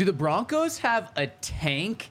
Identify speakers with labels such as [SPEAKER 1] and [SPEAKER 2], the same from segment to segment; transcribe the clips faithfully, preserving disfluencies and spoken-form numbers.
[SPEAKER 1] Do the Broncos have a tank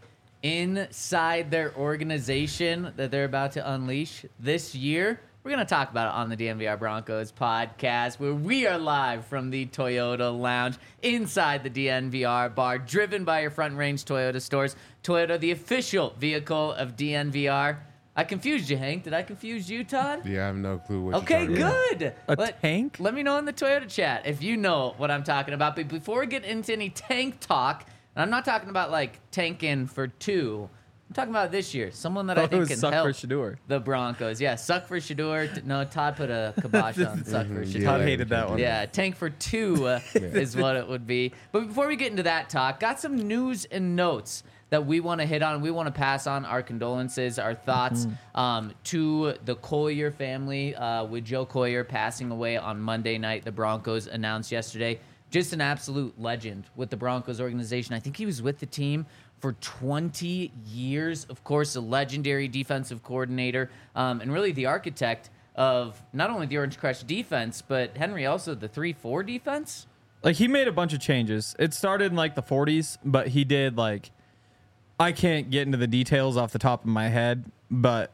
[SPEAKER 1] inside their organization that they're about to unleash this year? We're going to talk about it on the D N V R Broncos podcast, where we are live from the Toyota Lounge inside the D N V R bar, driven by your Front Range Toyota stores. Toyota, the official vehicle of D N V R. I confused you, Hank. Did I confuse you, Todd?
[SPEAKER 2] Yeah, I have no clue what
[SPEAKER 1] Okay,
[SPEAKER 2] you're talking
[SPEAKER 1] good.
[SPEAKER 3] A
[SPEAKER 1] let,
[SPEAKER 3] tank?
[SPEAKER 1] Let me know in the Toyota chat if you know what I'm talking about. But before we get into any tank talk, and I'm not talking about like tanking for two. I'm talking about this year. Someone that I think can
[SPEAKER 3] suck
[SPEAKER 1] help
[SPEAKER 3] for Shador.
[SPEAKER 1] the Broncos. Yeah, suck for Shador. No, Todd put a kibosh on suck for
[SPEAKER 2] Mhm,
[SPEAKER 1] Shador.
[SPEAKER 2] yeah.
[SPEAKER 3] Todd hated that one.
[SPEAKER 1] Yeah, tank for two uh, is what it would be. But before we get into that talk, got some news and notes that we want to hit on. We want to pass on our condolences, our thoughts um, to the Collier family uh, with Joe Collier passing away on Monday night. The Broncos announced yesterday. Just an absolute legend with the Broncos organization. I think he was with the team for twenty years. Of course, a legendary defensive coordinator um, and really the architect of not only the Orange Crush defense, but Henry also the three four defense.
[SPEAKER 3] Like, he made a bunch of changes. It started in like the forties, but he did like, I can't get into the details off the top of my head, but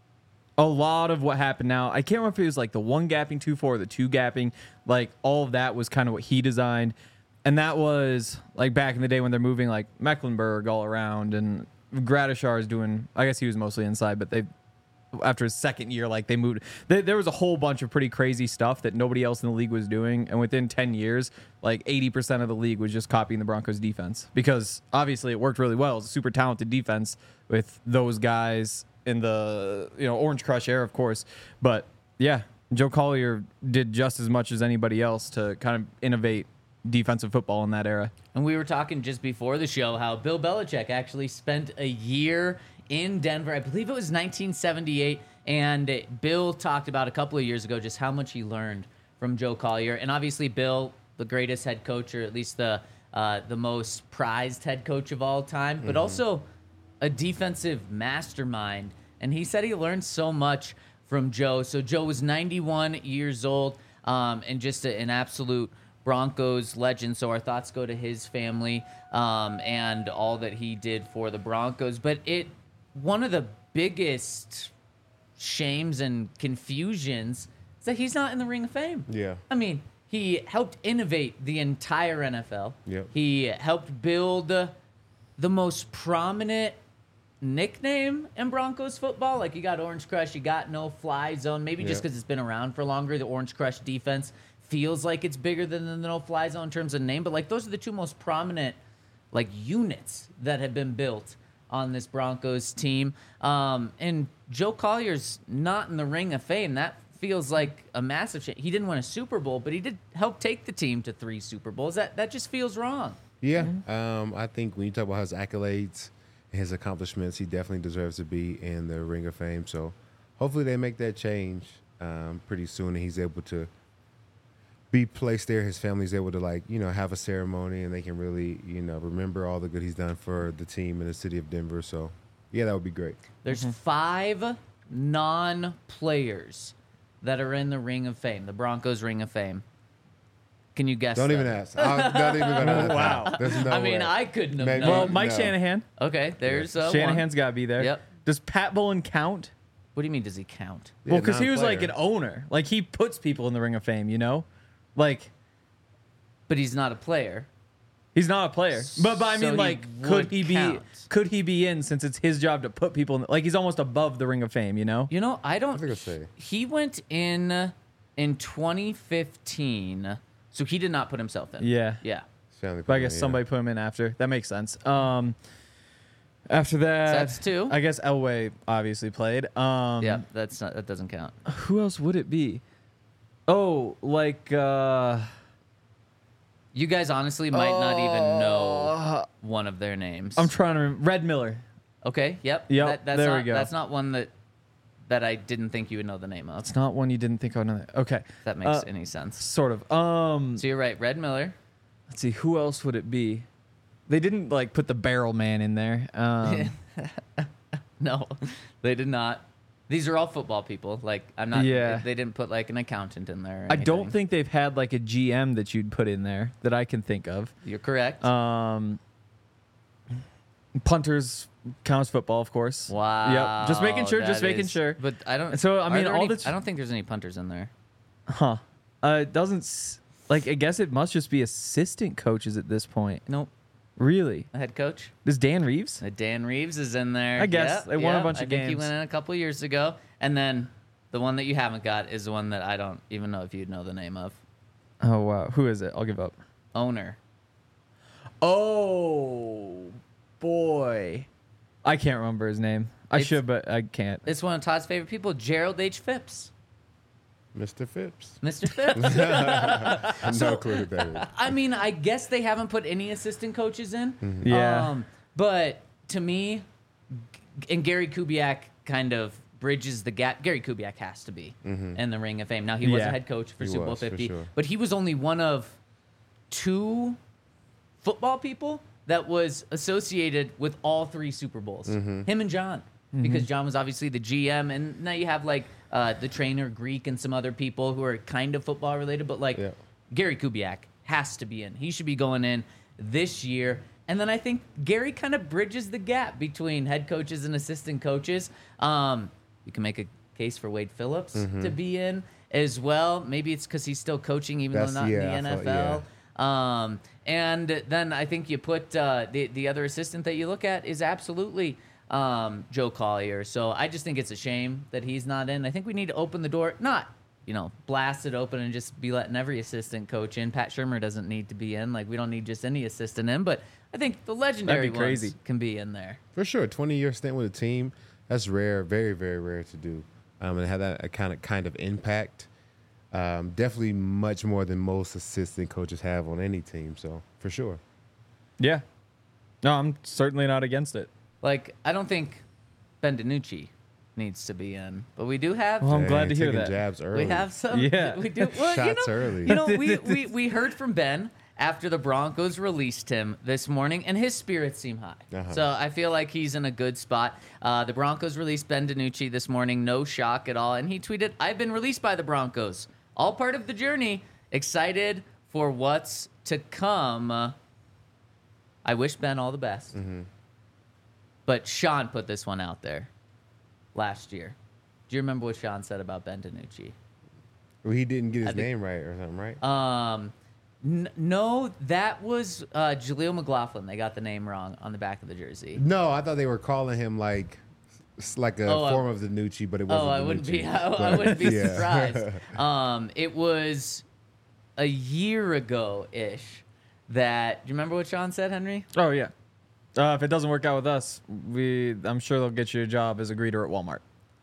[SPEAKER 3] a lot of what happened now, I can't remember if it was like the one gapping two four, or the two gapping, like all of that was kind of what he designed. And that was like back in the day when they're moving like Mecklenburg all around, and Gradishar is doing, I guess he was mostly inside, but they, after his second year, like they moved, they, there was a whole bunch of pretty crazy stuff that nobody else in the league was doing. And within ten years, like eighty percent of the league was just copying the Broncos defense, because obviously it worked really well. It was a super talented defense with those guys in the, you know, Orange Crush era, of course. But yeah, Joe Collier did just as much as anybody else to kind of innovate defensive football in that era.
[SPEAKER 1] And we were talking just before the show how Bill Belichick actually spent a year in Denver. I believe it was nineteen seventy-eight. And Bill talked about a couple of years ago just how much he learned from Joe Collier. And obviously Bill, the greatest head coach, or at least the uh, the most prized head coach of all time, but mm-hmm. also a defensive mastermind. And he said he learned so much from Joe. So Joe was ninety-one years old um, and just a, an absolute Broncos legend. So our thoughts go to his family um, and all that he did for the Broncos. But it one of the biggest shames and confusions is that he's not in the Ring of Fame.
[SPEAKER 2] Yeah.
[SPEAKER 1] I mean, he helped innovate the entire N F L.
[SPEAKER 2] Yep.
[SPEAKER 1] He helped build the most prominent nickname in Broncos football. Like, you got Orange Crush, you got No Fly Zone. Maybe just
[SPEAKER 2] Yep.
[SPEAKER 1] because it's been around for longer, the Orange Crush defense feels like it's bigger than the No Fly Zone in terms of name. But, like, those are the two most prominent, like, units that have been built on this Broncos team. Um, and Joe Collier's not in the Ring of Fame. That feels like a massive change. He didn't win a Super Bowl, but he did help take the team to three Super Bowls. That that just feels wrong.
[SPEAKER 2] Yeah. Um, I think when you talk about his accolades and his accomplishments, he definitely deserves to be in the Ring of Fame. So hopefully they make that change um, pretty soon, and he's able to be placed there. His family's able to, like, you know, have a ceremony, and they can really, you know, remember all the good he's done for the team in the city of Denver. So, yeah, that would be great.
[SPEAKER 1] There's five non-players that are in the Ring of Fame, the Broncos Ring of Fame. Can you guess?
[SPEAKER 2] Don't
[SPEAKER 1] them?
[SPEAKER 2] even ask. I'm not even going to
[SPEAKER 3] Wow.
[SPEAKER 2] There's no
[SPEAKER 1] I mean,
[SPEAKER 2] way.
[SPEAKER 1] I couldn't have
[SPEAKER 2] Maybe-
[SPEAKER 1] known.
[SPEAKER 3] Well, Mike
[SPEAKER 2] No.
[SPEAKER 3] Shanahan.
[SPEAKER 1] Okay, there's uh,
[SPEAKER 3] Shanahan's
[SPEAKER 1] one.
[SPEAKER 3] got to be there.
[SPEAKER 1] Yep.
[SPEAKER 3] Does Pat Bullen count?
[SPEAKER 1] What do you mean, does he count?
[SPEAKER 2] Yeah,
[SPEAKER 3] Well, because he was like
[SPEAKER 2] non-player.
[SPEAKER 3] an owner. Like, he puts people in the Ring of Fame, you know? Like,
[SPEAKER 1] But he's not a player.
[SPEAKER 3] he's not a player. But, but I
[SPEAKER 1] So
[SPEAKER 3] mean,
[SPEAKER 1] he
[SPEAKER 3] like,
[SPEAKER 1] would
[SPEAKER 3] could he be
[SPEAKER 1] count.
[SPEAKER 3] could he be in, since it's his job to put people in? Like, he's almost above the Ring of Fame, you know?
[SPEAKER 1] You know, I don't.
[SPEAKER 2] I think I'll say.
[SPEAKER 1] He went in in twenty fifteen, so he did not put himself in.
[SPEAKER 3] Yeah.
[SPEAKER 1] Yeah.
[SPEAKER 2] Family
[SPEAKER 3] But I
[SPEAKER 2] plan,
[SPEAKER 3] guess
[SPEAKER 2] yeah.
[SPEAKER 3] somebody put him in after. That makes sense. Um, after that,
[SPEAKER 1] So that's two.
[SPEAKER 3] I guess Elway obviously played. Um,
[SPEAKER 1] Yeah, that's not. That doesn't count.
[SPEAKER 3] Who else would it be? Oh, like uh,
[SPEAKER 1] You guys honestly might not even know
[SPEAKER 3] uh,
[SPEAKER 1] one of their names.
[SPEAKER 3] I'm trying to remember. Red Miller.
[SPEAKER 1] Okay. Yep.
[SPEAKER 3] Yep,
[SPEAKER 1] That, that's
[SPEAKER 3] there we
[SPEAKER 1] not,
[SPEAKER 3] go.
[SPEAKER 1] That's not one that that I didn't think you would know the name of.
[SPEAKER 3] It's not one you didn't think of. Another. Okay,
[SPEAKER 1] If that makes
[SPEAKER 3] Uh,
[SPEAKER 1] any sense.
[SPEAKER 3] sort of. Um,
[SPEAKER 1] So you're right. Red Miller.
[SPEAKER 3] let's see. Who else would it be? They didn't like put the Barrel Man in there. Um,
[SPEAKER 1] No, they did not. These are all football people. Like, I'm not.
[SPEAKER 3] Yeah.
[SPEAKER 1] They, they didn't put like an accountant in there. Or
[SPEAKER 3] I don't
[SPEAKER 1] anything.
[SPEAKER 3] think they've had like a G M that you'd put in there that I can think of.
[SPEAKER 1] You're correct.
[SPEAKER 3] Um, Punters counts football, of course.
[SPEAKER 1] Wow.
[SPEAKER 3] Yep. Just making sure. Just
[SPEAKER 1] that
[SPEAKER 3] making
[SPEAKER 1] is-
[SPEAKER 3] sure.
[SPEAKER 1] But I don't.
[SPEAKER 3] So, I
[SPEAKER 1] are
[SPEAKER 3] mean,
[SPEAKER 1] there
[SPEAKER 3] all
[SPEAKER 1] any-
[SPEAKER 3] the-
[SPEAKER 1] I don't think there's any punters in there.
[SPEAKER 3] Huh. Uh, it doesn't. s- Like, I guess it must just be assistant coaches at this point.
[SPEAKER 1] Nope.
[SPEAKER 3] Really?
[SPEAKER 1] The head coach.
[SPEAKER 3] Does Dan Reeves?
[SPEAKER 1] Uh, Dan Reeves is in there.
[SPEAKER 3] I guess.
[SPEAKER 1] Yep,
[SPEAKER 3] They won a
[SPEAKER 1] yep.
[SPEAKER 3] bunch
[SPEAKER 1] I
[SPEAKER 3] of
[SPEAKER 1] think he
[SPEAKER 3] games.
[SPEAKER 1] went in a couple years ago, and then the one that you haven't got is the one that I don't even know if you'd know the name of.
[SPEAKER 3] Oh, wow. Who is it? I'll give up.
[SPEAKER 1] Owner.
[SPEAKER 3] Oh, boy. I can't remember his name. I
[SPEAKER 1] It's-
[SPEAKER 3] should, but I can't.
[SPEAKER 1] It's one of Todd's favorite people, Gerald H. Phipps.
[SPEAKER 2] Mister Phipps.
[SPEAKER 1] Mister Phipps.
[SPEAKER 2] no clue who that is.
[SPEAKER 1] I mean, I guess they haven't put any assistant coaches in.
[SPEAKER 3] Yeah.
[SPEAKER 1] Um, but to me, G- and Gary Kubiak kind of bridges the gap. Gary Kubiak has to be in the Ring of Fame. Now, he was a
[SPEAKER 3] Yeah.
[SPEAKER 1] head coach for
[SPEAKER 2] He
[SPEAKER 1] Super Bowl
[SPEAKER 2] was, for
[SPEAKER 1] fifty,
[SPEAKER 2] sure.
[SPEAKER 1] but he was only one of two football people that was associated with all three Super Bowls.
[SPEAKER 2] Mm-hmm.
[SPEAKER 1] Him and John. Because John was obviously the G M, and now you have like uh, the trainer Greek and some other people who are kind of football related, but like
[SPEAKER 2] Yeah.
[SPEAKER 1] Gary Kubiak has to be in. He should be going in this year. And then I think Gary kind of bridges the gap between head coaches and assistant coaches. Um, you can make a case for Wade Phillips to be in as well. Maybe it's because he's still coaching, even
[SPEAKER 2] That's-
[SPEAKER 1] though not
[SPEAKER 2] yeah, I
[SPEAKER 1] in the
[SPEAKER 2] thought-
[SPEAKER 1] N F L. Um, and then I think you put uh, the the other assistant that you look at is absolutely um, Joe Collier. So I just think it's a shame that he's not in. I think we need to open the door, not you know blast it open and just be letting every assistant coach in. Pat Shermer doesn't need to be in. Like we don't need just any assistant in, but I think the legendary
[SPEAKER 3] That'd be crazy.
[SPEAKER 1] ones can be in there.
[SPEAKER 2] For sure, twenty year stint with a team, that's rare, very, very rare to do. Um, and have that kind of kind of impact. Um, definitely much more than most assistant coaches have on any team. So for sure.
[SPEAKER 3] Yeah. No, I'm certainly not against it.
[SPEAKER 1] Like I don't think Ben DiNucci needs to be in, but we do have.
[SPEAKER 3] Well, I'm glad
[SPEAKER 2] Dang,
[SPEAKER 3] to hear
[SPEAKER 2] taking
[SPEAKER 3] that.
[SPEAKER 2] jabs early.
[SPEAKER 1] We have some.
[SPEAKER 3] Yeah.
[SPEAKER 1] We do. Well,
[SPEAKER 2] Shots
[SPEAKER 1] you know,
[SPEAKER 2] early.
[SPEAKER 1] You know, we, we, we heard from Ben after the Broncos released him this morning, and his spirits seem high.
[SPEAKER 2] Uh-huh.
[SPEAKER 1] So I feel like he's in a good spot. Uh, the Broncos released Ben DiNucci this morning. No shock at all. And he tweeted, I've been released by the Broncos. All part of the journey. Excited for what's to come. Uh, I wish Ben all the best.
[SPEAKER 2] Mm-hmm.
[SPEAKER 1] But Sean put this one out there last year. Do you remember what Sean said about Ben DiNucci?
[SPEAKER 2] Well, he didn't get his
[SPEAKER 1] I think-
[SPEAKER 2] name right or something, right?
[SPEAKER 1] Um, n- no, that was uh, Jaleel McLaughlin. They got the name wrong on the back of the jersey.
[SPEAKER 2] No, I thought they were calling him like s- like a
[SPEAKER 1] Oh, I-
[SPEAKER 2] form of the Nucci, but it wasn't.
[SPEAKER 1] Oh, I wouldn't be.
[SPEAKER 2] DiNucci.
[SPEAKER 1] I, I
[SPEAKER 2] But,
[SPEAKER 1] wouldn't be
[SPEAKER 2] yeah.
[SPEAKER 1] surprised. Um, it was a year ago ish. That do you remember what Sean said, Henry?
[SPEAKER 3] Oh, yeah. Uh, if it doesn't work out with us, we I'm sure they'll get you a job as a greeter at Walmart.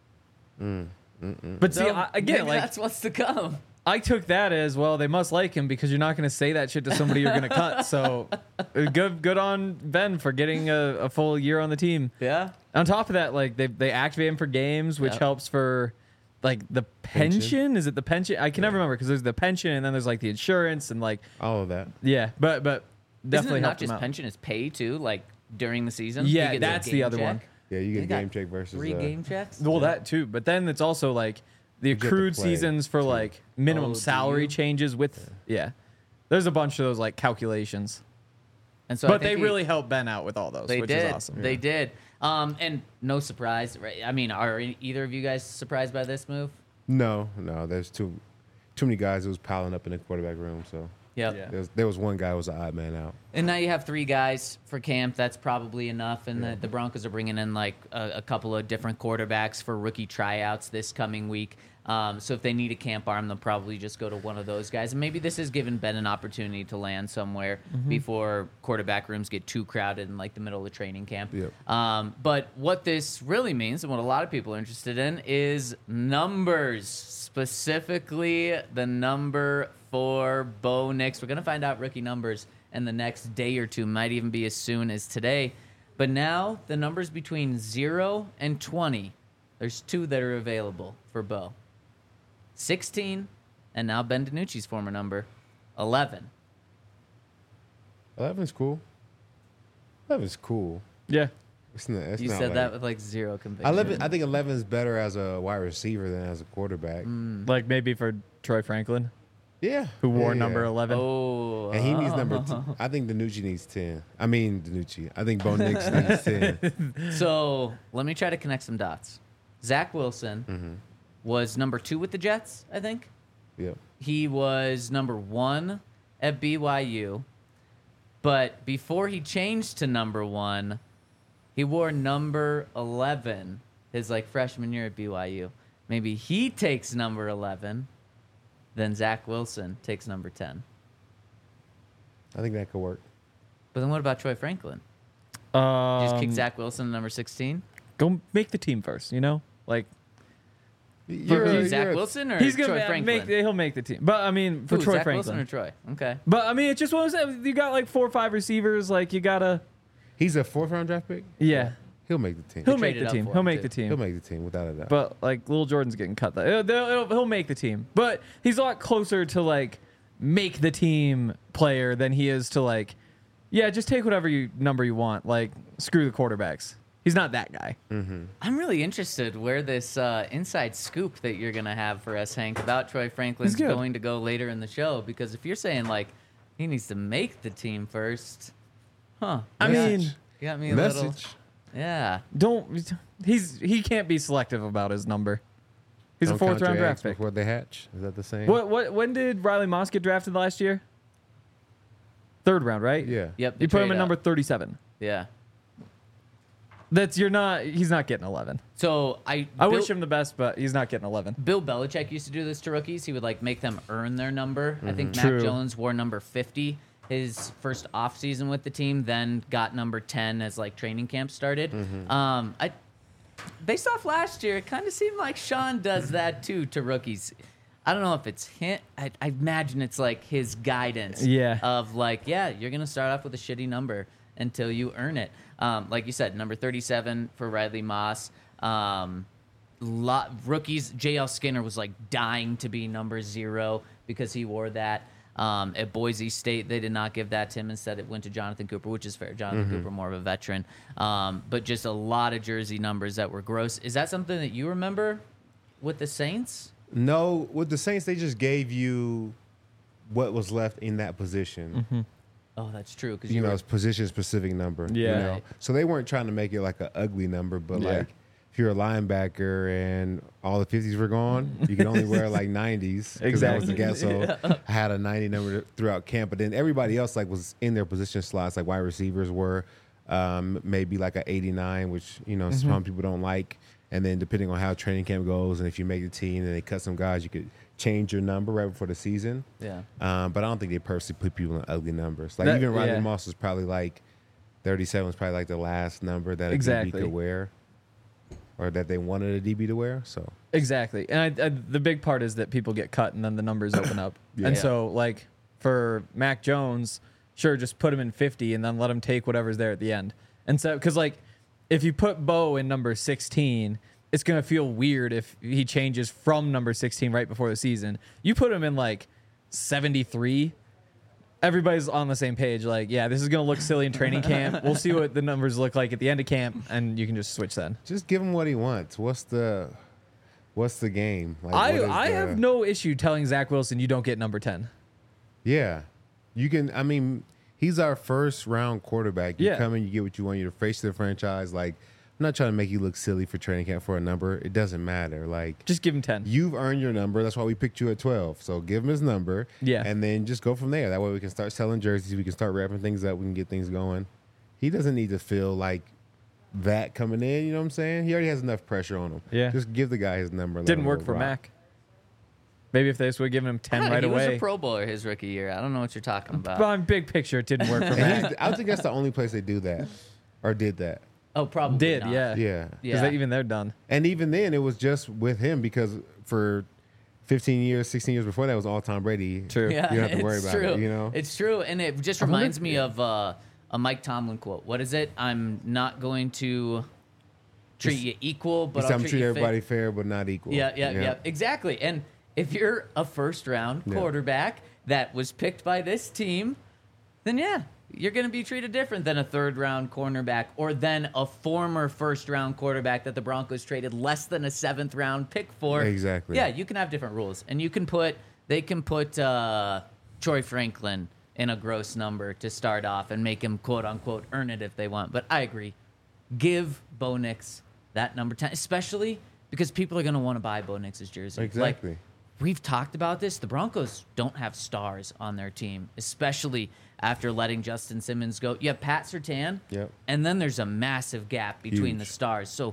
[SPEAKER 3] But see,
[SPEAKER 1] So,
[SPEAKER 3] I, again,
[SPEAKER 1] maybe
[SPEAKER 3] like
[SPEAKER 1] that's what's to come.
[SPEAKER 3] I took that as well. They must like him because you're not going to say that shit to somebody you're going to cut. So uh, good, good on Ben for getting a, a full year on the team.
[SPEAKER 1] Yeah.
[SPEAKER 3] On top of that, like they they activate him for games, which
[SPEAKER 1] Yep.
[SPEAKER 3] helps for like the pension.
[SPEAKER 2] Pension?
[SPEAKER 3] Is it the pension? I can never remember because there's the pension and then there's like the insurance and like
[SPEAKER 2] All of that.
[SPEAKER 3] yeah, but but
[SPEAKER 1] Isn't
[SPEAKER 3] definitely
[SPEAKER 1] it not
[SPEAKER 3] helped him
[SPEAKER 1] just
[SPEAKER 3] out.
[SPEAKER 1] pension? It's pay too. Like during the season.
[SPEAKER 3] Yeah,
[SPEAKER 1] You get
[SPEAKER 3] that's
[SPEAKER 1] a
[SPEAKER 3] the
[SPEAKER 1] game
[SPEAKER 3] other
[SPEAKER 1] check.
[SPEAKER 3] one.
[SPEAKER 2] Yeah, you get
[SPEAKER 1] They
[SPEAKER 2] a
[SPEAKER 1] got
[SPEAKER 2] game check versus
[SPEAKER 1] Three
[SPEAKER 2] uh,
[SPEAKER 1] game checks.
[SPEAKER 3] Well, that too, but then it's also like the
[SPEAKER 2] get to
[SPEAKER 3] accrued
[SPEAKER 2] play,
[SPEAKER 3] seasons for
[SPEAKER 2] too.
[SPEAKER 3] like minimum
[SPEAKER 1] Oh, do
[SPEAKER 3] salary
[SPEAKER 1] you?
[SPEAKER 3] changes with yeah. There's a bunch of those like calculations,
[SPEAKER 1] And so I
[SPEAKER 3] but
[SPEAKER 1] think
[SPEAKER 3] they
[SPEAKER 1] he-
[SPEAKER 3] really helped Ben out with all those,
[SPEAKER 1] They
[SPEAKER 3] which
[SPEAKER 1] did.
[SPEAKER 3] is awesome.
[SPEAKER 1] They did. Um, and no surprise, right? I mean, are e- either of you guys surprised by this move?
[SPEAKER 2] No, no. There's too too many guys who was piling up in the quarterback room. So
[SPEAKER 1] Yep.
[SPEAKER 3] Yeah.
[SPEAKER 2] there was, there was one guy who was an odd man out.
[SPEAKER 1] And now you have three guys for camp. That's probably enough. And the, the Broncos are bringing in like a, a couple of different quarterbacks for rookie tryouts this coming week. Um, so if they need a camp arm, they'll probably just go to one of those guys. And maybe this has given Ben an opportunity to land somewhere before quarterback rooms get too crowded in like the middle of the training camp.
[SPEAKER 2] Yep.
[SPEAKER 1] Um, but what this really means and what a lot of people are interested in is numbers, specifically the number for Bo Nix. We're going to find out rookie numbers in the next day or two, might even be as soon as today. But now the numbers between zero and twenty, there's two that are available for Bo. sixteen, and now Ben DiNucci's former number, eleven.
[SPEAKER 2] Eleven's cool. Eleven's cool.
[SPEAKER 3] Yeah,
[SPEAKER 2] It's not, it's
[SPEAKER 1] You
[SPEAKER 2] not
[SPEAKER 1] said
[SPEAKER 2] like,
[SPEAKER 1] that with like zero conviction.
[SPEAKER 2] Eleven. I think eleven is better as a wide receiver than as a quarterback.
[SPEAKER 1] Mm.
[SPEAKER 3] like maybe for Troy Franklin.
[SPEAKER 2] Yeah.
[SPEAKER 3] who wore
[SPEAKER 2] Yeah,
[SPEAKER 3] number
[SPEAKER 2] yeah.
[SPEAKER 3] eleven.
[SPEAKER 1] Oh,
[SPEAKER 2] And he needs number two. I think Danucci needs ten. I mean, Danucci. I think Bo Nix needs ten.
[SPEAKER 1] So let me try to connect some dots. Zach Wilson
[SPEAKER 2] Mm-hmm.
[SPEAKER 1] was number two with the Jets, I think.
[SPEAKER 2] Yep.
[SPEAKER 1] He was number one at B Y U. But before he changed to number one, he wore number eleven his like freshman year at B Y U. Maybe he takes number eleven, then Zach Wilson takes number ten.
[SPEAKER 2] I think that could work.
[SPEAKER 1] But then what about Troy Franklin?
[SPEAKER 3] Um,
[SPEAKER 1] Just kick Zach Wilson to number sixteen?
[SPEAKER 3] Go make the team first, you know? Like,
[SPEAKER 2] You're,
[SPEAKER 3] Who,
[SPEAKER 2] a-
[SPEAKER 1] Zach
[SPEAKER 2] you're a-
[SPEAKER 1] Wilson or
[SPEAKER 3] he's going
[SPEAKER 1] Troy
[SPEAKER 3] to
[SPEAKER 1] Franklin?
[SPEAKER 3] make, he'll make the team. But, I mean, for
[SPEAKER 1] Who,
[SPEAKER 3] Troy
[SPEAKER 1] Zach
[SPEAKER 3] Franklin.
[SPEAKER 1] Wilson or Troy? Okay.
[SPEAKER 3] But, I mean, it's just what I said. You got like four or five receivers. Like, you got to,
[SPEAKER 2] He's a fourth round draft pick.
[SPEAKER 3] yeah.
[SPEAKER 2] He'll make the team.
[SPEAKER 3] He'll
[SPEAKER 1] They
[SPEAKER 3] make
[SPEAKER 1] traded
[SPEAKER 3] the
[SPEAKER 1] up
[SPEAKER 3] team.
[SPEAKER 1] for
[SPEAKER 3] He'll
[SPEAKER 1] him,
[SPEAKER 3] make
[SPEAKER 1] too.
[SPEAKER 3] the
[SPEAKER 2] He'll
[SPEAKER 3] team.
[SPEAKER 2] make the team without a doubt.
[SPEAKER 3] But, like, Little Jordan's getting cut. That He'll, he'll, he'll make the team. But he's a lot closer to, like, make the team player than he is to, like, yeah, just take whatever you number you want. Like, screw the quarterbacks. He's not that guy.
[SPEAKER 1] I'm really interested where this uh, inside scoop that you're going to have for us, Hank, about Troy Franklin's
[SPEAKER 3] He's good.
[SPEAKER 1] going to go later in the show. Because if you're saying, like, he needs to make the team first, huh?
[SPEAKER 3] I
[SPEAKER 1] you got-
[SPEAKER 3] mean,
[SPEAKER 1] you got me a little.
[SPEAKER 2] Message.
[SPEAKER 1] Yeah.
[SPEAKER 3] don't. He's he can't be selective about his number. He's
[SPEAKER 2] Don't
[SPEAKER 3] a fourth
[SPEAKER 2] count your
[SPEAKER 3] round draft
[SPEAKER 2] eggs
[SPEAKER 3] pick.
[SPEAKER 2] before they hatch. Is that the same?
[SPEAKER 3] What what when did Riley Moss get drafted last year? Third round, right?
[SPEAKER 2] Yeah.
[SPEAKER 1] Yep. they
[SPEAKER 3] You put him
[SPEAKER 1] trade
[SPEAKER 3] at number
[SPEAKER 1] up.
[SPEAKER 3] thirty-seven.
[SPEAKER 1] Yeah.
[SPEAKER 3] That's you're not. He's not getting eleven.
[SPEAKER 1] So I.
[SPEAKER 3] I
[SPEAKER 1] Bill,
[SPEAKER 3] wish him the best, but he's not getting eleven.
[SPEAKER 1] Bill Belichick used to do this to rookies. He would like make them earn their number. I think Mac
[SPEAKER 3] True.
[SPEAKER 1] Jones wore number fifty his first offseason with the team, then got number ten as like training camp started. Um, I based off last year, it kind of seemed like Sean does that too to rookies. I don't know if it's him. I, I imagine it's like his guidance.
[SPEAKER 3] Yeah.
[SPEAKER 1] Of like, yeah, you're gonna start off with a shitty number until you earn it. Um, like you said, number thirty-seven for Riley Moss. Um, lot rookies. J L Skinner was like dying to be number zero because he wore that. Um, at Boise State, they did not give that to him. Instead, it went to Jonathan Cooper, which is fair. Jonathan Cooper, more of a veteran. Um, but just a lot of jersey numbers that were gross. Is that something that you remember with the Saints?
[SPEAKER 2] No, with the Saints, they just gave you what was left in that position.
[SPEAKER 1] Oh, that's true. Because
[SPEAKER 2] You know, it's position specific number. you
[SPEAKER 3] Yeah.
[SPEAKER 2] know?
[SPEAKER 1] Right.
[SPEAKER 2] So they weren't trying to make it like an ugly number, but
[SPEAKER 3] Yeah.
[SPEAKER 2] like if you're a linebacker and all the fifties were gone, you could only wear like nineties. 'cause that was the guess. So I had a ninety number throughout camp, but then everybody else like was in their position slots. Like wide receivers were um, maybe like a eighty-nine, which you know some people don't like. And then depending on how training camp goes, and if you make the team and they cut some guys, you could change your number right before the season.
[SPEAKER 1] Yeah.
[SPEAKER 2] Um, but I don't think they purposely put people in ugly numbers. Like
[SPEAKER 3] That-
[SPEAKER 2] even Riley
[SPEAKER 3] yeah.
[SPEAKER 2] Moss was probably like thirty-seven was probably like the last number that a
[SPEAKER 3] Exactly.
[SPEAKER 2] D B could wear, or that they wanted a D B to wear. So
[SPEAKER 3] Exactly. And I, I, the big part is that people get cut and then the numbers open up. And
[SPEAKER 1] Yeah.
[SPEAKER 3] so, like, for Mac Jones, sure, just put him in fifty and then let him take whatever's there at the end. And so, because, like, if you put Bo in number sixteen, it's going to feel weird if he changes from number sixteen right before the season. You put him in, like, seventy-three. Everybody's on the same page. Like, yeah, this is going to look silly in training camp. We'll see what the numbers look like at the end of camp, and you can just switch then.
[SPEAKER 2] just give him what he wants. What's the what's the game? Like,
[SPEAKER 3] I,
[SPEAKER 2] what is
[SPEAKER 3] I
[SPEAKER 2] the-
[SPEAKER 3] have no issue telling Zach Wilson you don't get number ten.
[SPEAKER 2] Yeah, you can. I mean, he's our first round quarterback. You
[SPEAKER 3] Yeah.
[SPEAKER 2] come in, you get what you want. You're the face of the franchise. Like, I'm not trying to make you look silly for training camp for a number. It doesn't matter. Like,
[SPEAKER 3] Just give him ten.
[SPEAKER 2] you've earned your number. That's why we picked you at twelve. So give him his number.
[SPEAKER 3] Yeah.
[SPEAKER 2] And then just go from there. That way we can start selling jerseys. We can start wrapping things up. We can get things going. He doesn't need to feel like that coming in. You know what I'm saying? He already has enough pressure on him.
[SPEAKER 3] Yeah.
[SPEAKER 2] Just give the guy his number. and let
[SPEAKER 3] Didn't
[SPEAKER 2] him
[SPEAKER 3] work
[SPEAKER 2] go
[SPEAKER 3] for
[SPEAKER 2] rock.
[SPEAKER 3] Mac. Maybe if they just would have given him ten
[SPEAKER 1] Yeah,
[SPEAKER 3] right
[SPEAKER 1] he was
[SPEAKER 3] away.
[SPEAKER 1] a Pro Bowler his rookie year. I don't know what you're talking about.
[SPEAKER 3] But on big picture, it didn't work for
[SPEAKER 2] And
[SPEAKER 3] Mac.
[SPEAKER 2] he's, I think that's the only place they do that or did that.
[SPEAKER 1] Oh, probably
[SPEAKER 3] Did,
[SPEAKER 1] not.
[SPEAKER 3] yeah.
[SPEAKER 2] Yeah.
[SPEAKER 3] Because
[SPEAKER 1] Yeah.
[SPEAKER 3] even they're done.
[SPEAKER 2] And even then, it was just with him because for fifteen years, sixteen years before that was all Tom Brady.
[SPEAKER 3] True.
[SPEAKER 1] Yeah,
[SPEAKER 2] You don't have to worry
[SPEAKER 1] it's
[SPEAKER 2] about
[SPEAKER 1] true.
[SPEAKER 2] it, you know?
[SPEAKER 1] It's true, and it just
[SPEAKER 3] I wonder
[SPEAKER 1] reminds
[SPEAKER 3] if-
[SPEAKER 1] me of uh, a Mike Tomlin quote. What is it? I'm not going to treat
[SPEAKER 2] Just-
[SPEAKER 1] you equal, but
[SPEAKER 2] He
[SPEAKER 1] I'll
[SPEAKER 2] said, I'm
[SPEAKER 1] treat
[SPEAKER 2] treat
[SPEAKER 1] you
[SPEAKER 2] everybody
[SPEAKER 1] fair.
[SPEAKER 2] fair, but not equal.
[SPEAKER 1] Yeah, yeah, yeah, exactly. And if you're a first round
[SPEAKER 2] Yeah.
[SPEAKER 1] quarterback that was picked by this team, then yeah, you're going to be treated different than a third round cornerback or then a former first round quarterback that the Broncos traded less than a seventh round pick for.
[SPEAKER 2] Exactly.
[SPEAKER 1] Yeah, you can have different rules. And you can put they can put uh, Troy Franklin in a gross number to start off and make him quote unquote earn it if they want. But I agree. Give Bo Nix that number ten, especially because people are going to want to buy Bo Nix's jersey.
[SPEAKER 2] Exactly.
[SPEAKER 1] Like, we've talked about this. The Broncos don't have stars on their team, especially after letting Justin Simmons go. You have Pat Surtain,
[SPEAKER 2] Yep.
[SPEAKER 1] and then there's a massive gap between
[SPEAKER 2] Huge.
[SPEAKER 1] the stars. So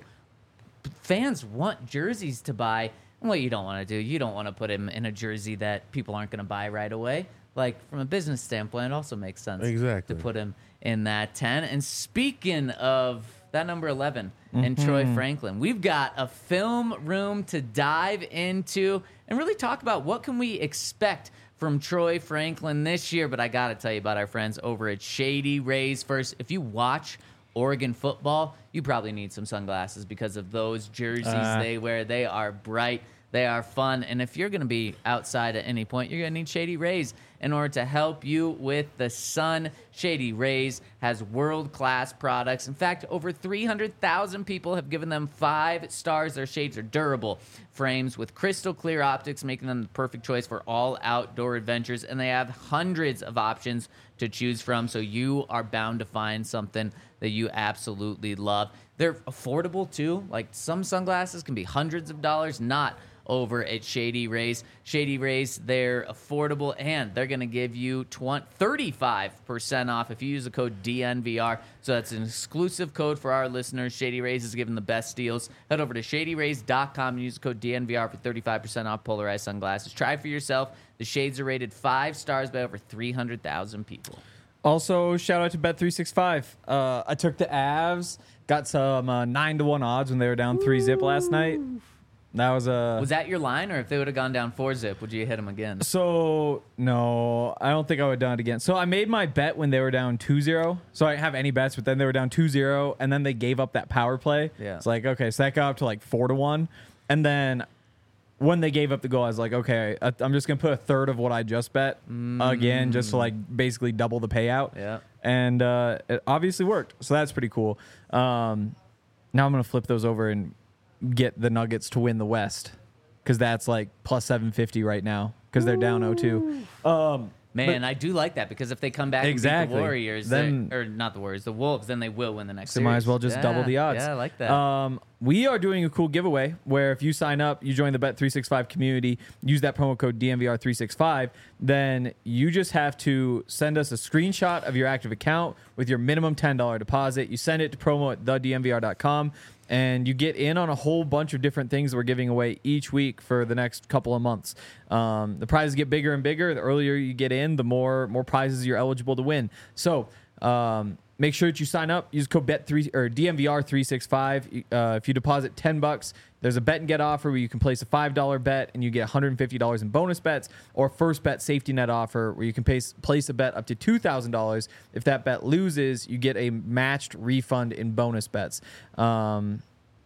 [SPEAKER 1] fans want jerseys to buy. And what you don't want to do, you don't want to put him in a jersey that people aren't going to buy right away. Like, from a business standpoint, it also makes sense
[SPEAKER 2] Exactly.
[SPEAKER 1] to put him in that ten. And speaking of that number eleven and Troy Franklin, we've got a film room to dive into and really talk about what can we expect from Troy Franklin this year. But I got to tell you about our friends over at Shady Rays. First, if you watch Oregon football, you probably need some sunglasses because of those jerseys
[SPEAKER 3] Uh.
[SPEAKER 1] they wear. They are bright. They are fun. And if you're going to be outside at any point, you're going to need Shady Rays in order to help you with the sun. Shady Rays has world-class products. In fact, over three hundred thousand people have given them five stars. Their shades are durable frames with crystal clear optics, making them the perfect choice for all outdoor adventures. And they have hundreds of options to choose from, so you are bound to find something that you absolutely love. They're affordable, too. Like, some sunglasses can be hundreds of dollars, not over at Shady Rays. Shady Rays, they're affordable, and they're going to give you thirty-five percent off if you use the code D N V R. So that's an exclusive code for our listeners. Shady Rays is giving the best deals. Head over to shady rays dot com and use the code D N V R for thirty-five percent off polarized sunglasses. Try for yourself. The shades are rated five stars by over three hundred thousand people.
[SPEAKER 3] Also, shout out to Bet three sixty-five. Uh, I took the Avs, got some uh, nine to one odds when they were down three zip last night. That was a.
[SPEAKER 1] Was that your line, or if they would have gone down four zip, would you hit them again?
[SPEAKER 3] So, no, I don't think I would have done it again. So, I made my bet when they were down two zero. So, I didn't have any bets, but then they were down two zero, and then they gave up that power play.
[SPEAKER 1] Yeah.
[SPEAKER 3] It's like, okay, so that got up to like four to one. And then when they gave up the goal, I was like, okay, I- I'm just going to put a third of what I just bet again, just to like basically double the payout.
[SPEAKER 1] Yeah.
[SPEAKER 3] And uh, it obviously worked. So, that's pretty cool. Um, now I'm going to flip those over and get the Nuggets to win the West, because that's like plus seven fifty right now because they're down oh two. Um,
[SPEAKER 1] Man, I do like that, because if they come back and beat
[SPEAKER 3] Exactly.
[SPEAKER 1] the Warriors,
[SPEAKER 3] Then-
[SPEAKER 1] they- or not the Warriors, the Wolves, then they will win the next
[SPEAKER 3] so
[SPEAKER 1] series.
[SPEAKER 3] might as well just
[SPEAKER 1] Yeah,
[SPEAKER 3] double the odds.
[SPEAKER 1] Yeah, I like that.
[SPEAKER 3] Um, we are doing a cool giveaway where if you sign up, you join the Bet three sixty-five community, use that promo code D N V R three sixty-five, then you just have to send us a screenshot of your active account with your minimum ten dollars deposit. You send it to promo at the D N V R dot com. And you get in on a whole bunch of different things that we're giving away each week for the next couple of months. Um, the prizes get bigger and bigger. The earlier you get in, the more more prizes you're eligible to win. So um, make sure that you sign up. Use code bet three or D N V R three sixty-five. Uh, if you deposit ten bucks, there's a bet and get offer where you can place a five dollar bet and you get one hundred fifty dollars in bonus bets, or first bet safety net offer where you can place, place a bet up to two thousand dollars. If that bet loses, you get a matched refund in bonus bets. Um,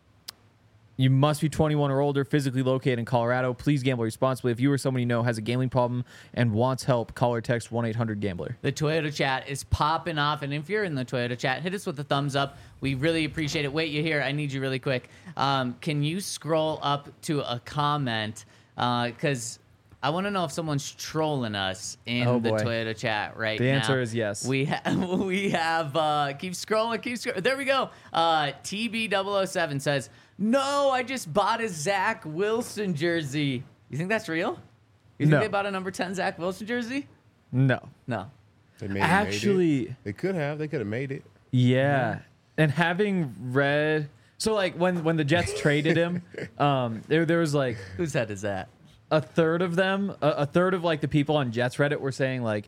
[SPEAKER 3] You must be twenty-one or older, physically located in Colorado. Please gamble responsibly. If you or someone you know has a gambling problem and wants help, call or text one eight hundred gambler.
[SPEAKER 1] The Toyota chat is popping off, and if you're in the Toyota chat, hit us with a thumbs up. We really appreciate it. Wait, you here? I need you really quick. Um, can you scroll up to a comment? Because uh, I want to know if someone's trolling us in
[SPEAKER 3] Oh,
[SPEAKER 1] the
[SPEAKER 3] boy.
[SPEAKER 1] Toyota chat right
[SPEAKER 3] The
[SPEAKER 1] now.
[SPEAKER 3] answer is yes.
[SPEAKER 1] We have. We have. Uh, keep scrolling. Keep scrolling. There we go. Uh, T B double oh seven says, "No, I just bought a Zach Wilson jersey." You think that's real? You think
[SPEAKER 3] No.
[SPEAKER 1] they bought a number ten Zach Wilson jersey?
[SPEAKER 3] No.
[SPEAKER 1] No.
[SPEAKER 2] They may have made
[SPEAKER 3] Actually,
[SPEAKER 2] it. They could have. They could have made it.
[SPEAKER 3] yeah. And having read, so like when when the Jets traded him, um, there there was like
[SPEAKER 1] Whose head is that?
[SPEAKER 3] a third of them, a, a third of like the people on Jets Reddit were saying like,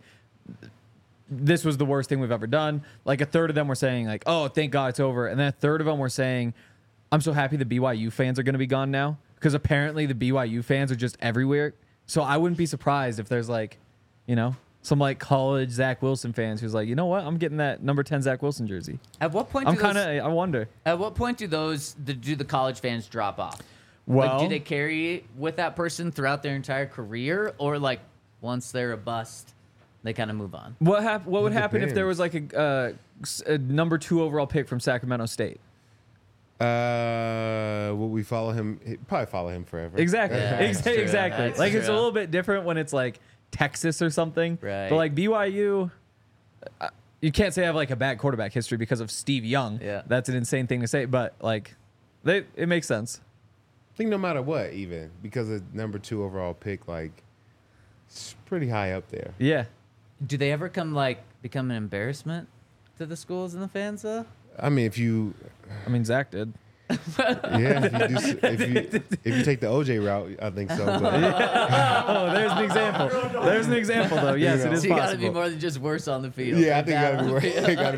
[SPEAKER 3] this was the worst thing we've ever done. Like a third of them were saying like, oh, thank God it's over. And then a third of them were saying, I'm so happy the B Y U fans are going to be gone now, because apparently the B Y U fans are just everywhere. So I wouldn't be surprised if there's like, you know, some like college Zach Wilson fans who's like, you know what, I'm getting that number ten Zach Wilson jersey.
[SPEAKER 1] At what point?
[SPEAKER 3] I'm
[SPEAKER 1] do those-
[SPEAKER 3] kind of, I wonder.
[SPEAKER 1] At what point do those the, do the college fans drop off?
[SPEAKER 3] Well,
[SPEAKER 1] like, do they carry with that person throughout their entire career, or like once they're a bust, they kind of move on?
[SPEAKER 3] what hap- What would
[SPEAKER 2] It
[SPEAKER 3] happen if there
[SPEAKER 2] depends.
[SPEAKER 3] was like a, uh, s- a number two overall pick from Sacramento State?
[SPEAKER 2] Uh, will we follow him? Probably follow him forever.
[SPEAKER 3] Exactly.
[SPEAKER 1] Yeah,
[SPEAKER 3] Ex-
[SPEAKER 1] that's true.
[SPEAKER 3] exactly.
[SPEAKER 1] That's
[SPEAKER 3] Like it's a
[SPEAKER 1] true.
[SPEAKER 3] little bit different when it's like Texas or something.
[SPEAKER 1] Right.
[SPEAKER 3] But like B Y U, uh, you can't say I have like a bad quarterback history because of Steve Young.
[SPEAKER 1] Yeah.
[SPEAKER 3] That's an insane thing to say, but like, they it makes sense.
[SPEAKER 2] I think no matter what, even because of number two overall pick, like it's pretty high up there.
[SPEAKER 3] Yeah.
[SPEAKER 1] Do they ever come like become an embarrassment to the schools and the fans though?
[SPEAKER 2] I mean, if you,
[SPEAKER 3] I mean, Zach did.
[SPEAKER 2] yeah, if you, do, s- if you if you take the O J route, I think so. But
[SPEAKER 3] Oh, there's an example. There's an example though. Yes,
[SPEAKER 2] You know.
[SPEAKER 3] it is
[SPEAKER 1] So you got to be
[SPEAKER 3] possible.
[SPEAKER 1] more than just worse on the field.
[SPEAKER 2] yeah, I think
[SPEAKER 1] Bad
[SPEAKER 2] gotta
[SPEAKER 1] on
[SPEAKER 2] be
[SPEAKER 1] the
[SPEAKER 2] worth,
[SPEAKER 1] field.
[SPEAKER 2] it gotta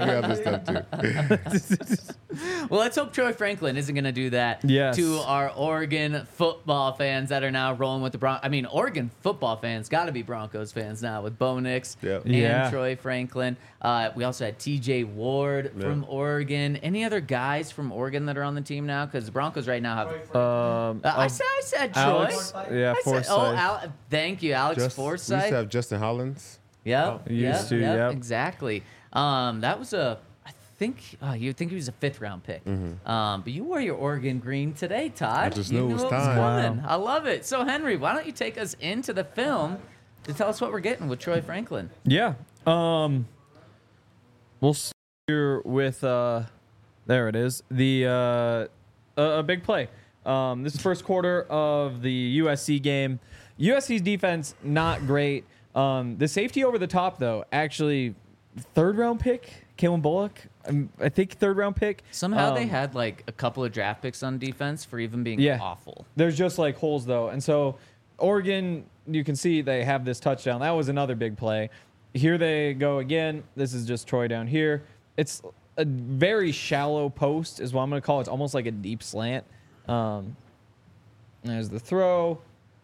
[SPEAKER 2] be other stuff too.
[SPEAKER 1] Well, let's hope Troy Franklin isn't going to do that
[SPEAKER 3] Yes.
[SPEAKER 1] to our Oregon football fans that are now rolling with the Broncos. I mean, Oregon football fans got to be Broncos fans now with Bo Nix
[SPEAKER 2] Yep.
[SPEAKER 1] and
[SPEAKER 3] Yeah.
[SPEAKER 1] Troy Franklin. Uh, we also had T J Ward
[SPEAKER 2] Yeah.
[SPEAKER 1] from Oregon. Any other guys from Oregon that are on the team now? Because the Broncos right now have.
[SPEAKER 3] Um,
[SPEAKER 1] Uh, I
[SPEAKER 3] um,
[SPEAKER 1] said, I said Troy.
[SPEAKER 3] Alex, yeah,
[SPEAKER 1] I said,
[SPEAKER 3] Forsyth.
[SPEAKER 1] oh, Al, thank you, Alex
[SPEAKER 2] Just, we used
[SPEAKER 1] Forsyth.
[SPEAKER 2] to have Justin Hollins.
[SPEAKER 1] Yep.
[SPEAKER 3] Used
[SPEAKER 1] yep,
[SPEAKER 3] to,
[SPEAKER 1] yep,
[SPEAKER 3] yep.
[SPEAKER 1] Exactly. Um, that was a, I think, uh, you think he was a fifth round pick. Um, but you wore your Oregon green today, Todd.
[SPEAKER 2] I just
[SPEAKER 1] you
[SPEAKER 2] knew it was
[SPEAKER 1] what
[SPEAKER 2] time.
[SPEAKER 1] coming. I love it. So, Henry, why don't you take us into the film to tell us what we're getting with Troy Franklin?
[SPEAKER 3] Yeah. Um, we'll start here with, uh, there it is, the uh, a, a big play. Um, this is first quarter of the U S C game. U S C's defense, not great. Um, the safety over the top, though, actually third round pick, Kalen Bullock. Um, I think third round pick.
[SPEAKER 1] Somehow they
[SPEAKER 3] Um,
[SPEAKER 1] had like a couple of draft picks on defense for even being
[SPEAKER 3] Yeah.
[SPEAKER 1] awful.
[SPEAKER 3] There's just like holes though. And so Oregon, you can see they have this touchdown. That was another big play. Here they go again. This is just Troy down here. It's a very shallow post is what I'm going to call it. It's almost like a deep slant. Um, there's the throw.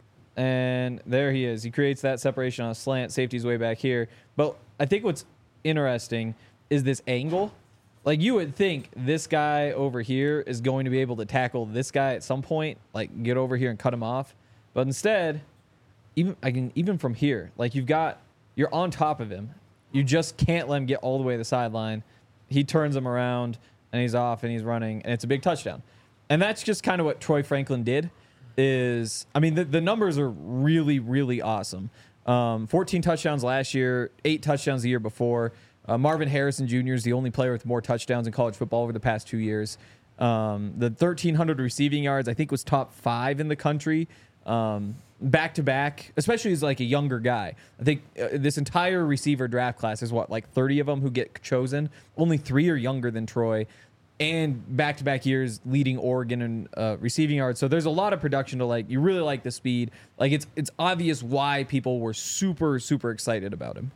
[SPEAKER 3] And there he is. He creates that separation on a slant. Safety's way back here. But I think what's interesting is this angle. Like you would think this guy over here is going to be able to tackle this guy at some point, like get over here and cut him off. But instead, even I can even from here, like you've got you're on top of him. You just can't let him get all the way to the sideline. He turns him around and he's off and he's running and it's a big touchdown. And that's just kind of what Troy Franklin did. Is I mean the, the numbers are really really awesome. Um, fourteen touchdowns last year, eight touchdowns the year before. Uh, Marvin Harrison Junior is the only player with more touchdowns in college football over the past two years. Um, the thirteen hundred receiving yards, I think, was top five in the country. Um, back to back, especially as like a younger guy. I think uh, this entire receiver draft class is what, like thirty of them who get chosen. Only three are younger than Troy. And back to back years leading Oregon in uh, receiving yards. So there's a lot of production to like. You really like the speed. Like it's it's obvious why people were super super excited about him.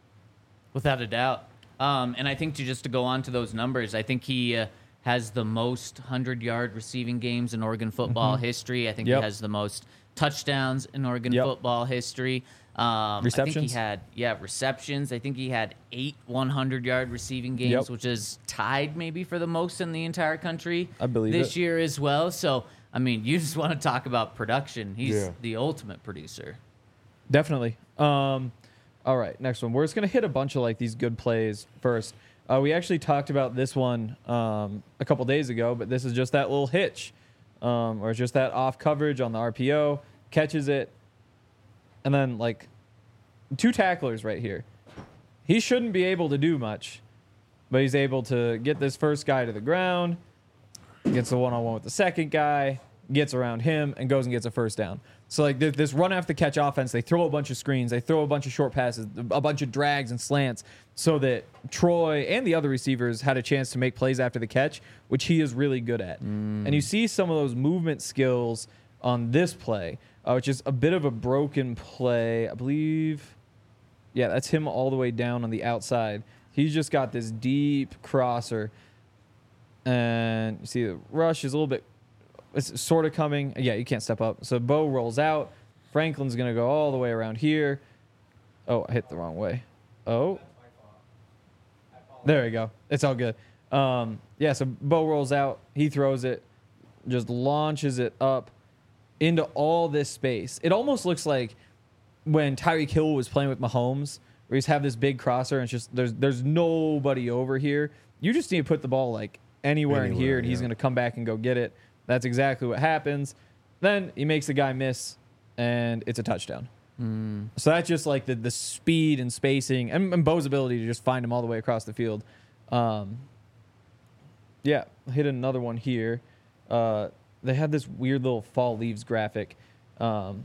[SPEAKER 1] Without a doubt. Um, and I think to just to go on to those numbers, I think he uh, has the most hundred-yard receiving games in Oregon football history. I think
[SPEAKER 3] Yep.
[SPEAKER 1] he has the most touchdowns in Oregon
[SPEAKER 3] Yep.
[SPEAKER 1] football history. Um, I think
[SPEAKER 3] Receptions?
[SPEAKER 1] he had, yeah, receptions. I think he had eight hundred-yard receiving games,
[SPEAKER 3] Yep.
[SPEAKER 1] which is tied maybe for the most in the entire country
[SPEAKER 3] I believe
[SPEAKER 1] this
[SPEAKER 3] it.
[SPEAKER 1] year as well. So, I mean, you just want to talk about production. He's
[SPEAKER 2] Yeah.
[SPEAKER 1] the ultimate producer.
[SPEAKER 3] Definitely. Um, all right, next one. We're just gonna hit a bunch of like these good plays first. Uh, we actually talked about this one um, a couple days ago, but this is just that little hitch, um, or just that off coverage on the R P O, catches it, and then like two tacklers right here. He shouldn't be able to do much, but he's able to get this first guy to the ground, gets the one-on-one with the second guy, gets around him, and goes and gets a first down. So like th- this run after catch offense, they throw a bunch of screens, they throw a bunch of short passes, a bunch of drags and slants, so that Troy and the other receivers had a chance to make plays after the catch, which he is really good at. And you see some of those movement skills on this play, uh, which is a bit of a broken play, I believe. Yeah, that's him all the way down on the outside. He's just got this deep crosser, and you see the rush is a little bit. It's sort of coming. Yeah, you can't step up. So Bo rolls out. Franklin's going to go all the way around here. Oh, I hit the wrong way. Oh. There we go. It's all good. Um, yeah, so Bo rolls out. He throws it. Just launches it up into all this space. It almost looks like when Tyreek Hill was playing with Mahomes, where he's have this big crosser and it's just there's there's nobody over here. You just need to put the ball like anywhere, in
[SPEAKER 2] Anywhere,
[SPEAKER 3] here, and he's
[SPEAKER 2] yeah.
[SPEAKER 3] going to come back and go get it. That's exactly what happens. Then he makes the guy miss, and it's a touchdown.
[SPEAKER 1] Mm.
[SPEAKER 3] So that's just like the the speed and spacing and, and Bo's ability to just find him all the way across the field. Um, yeah, hit another one here. Uh, they had this weird little fall leaves graphic. Um,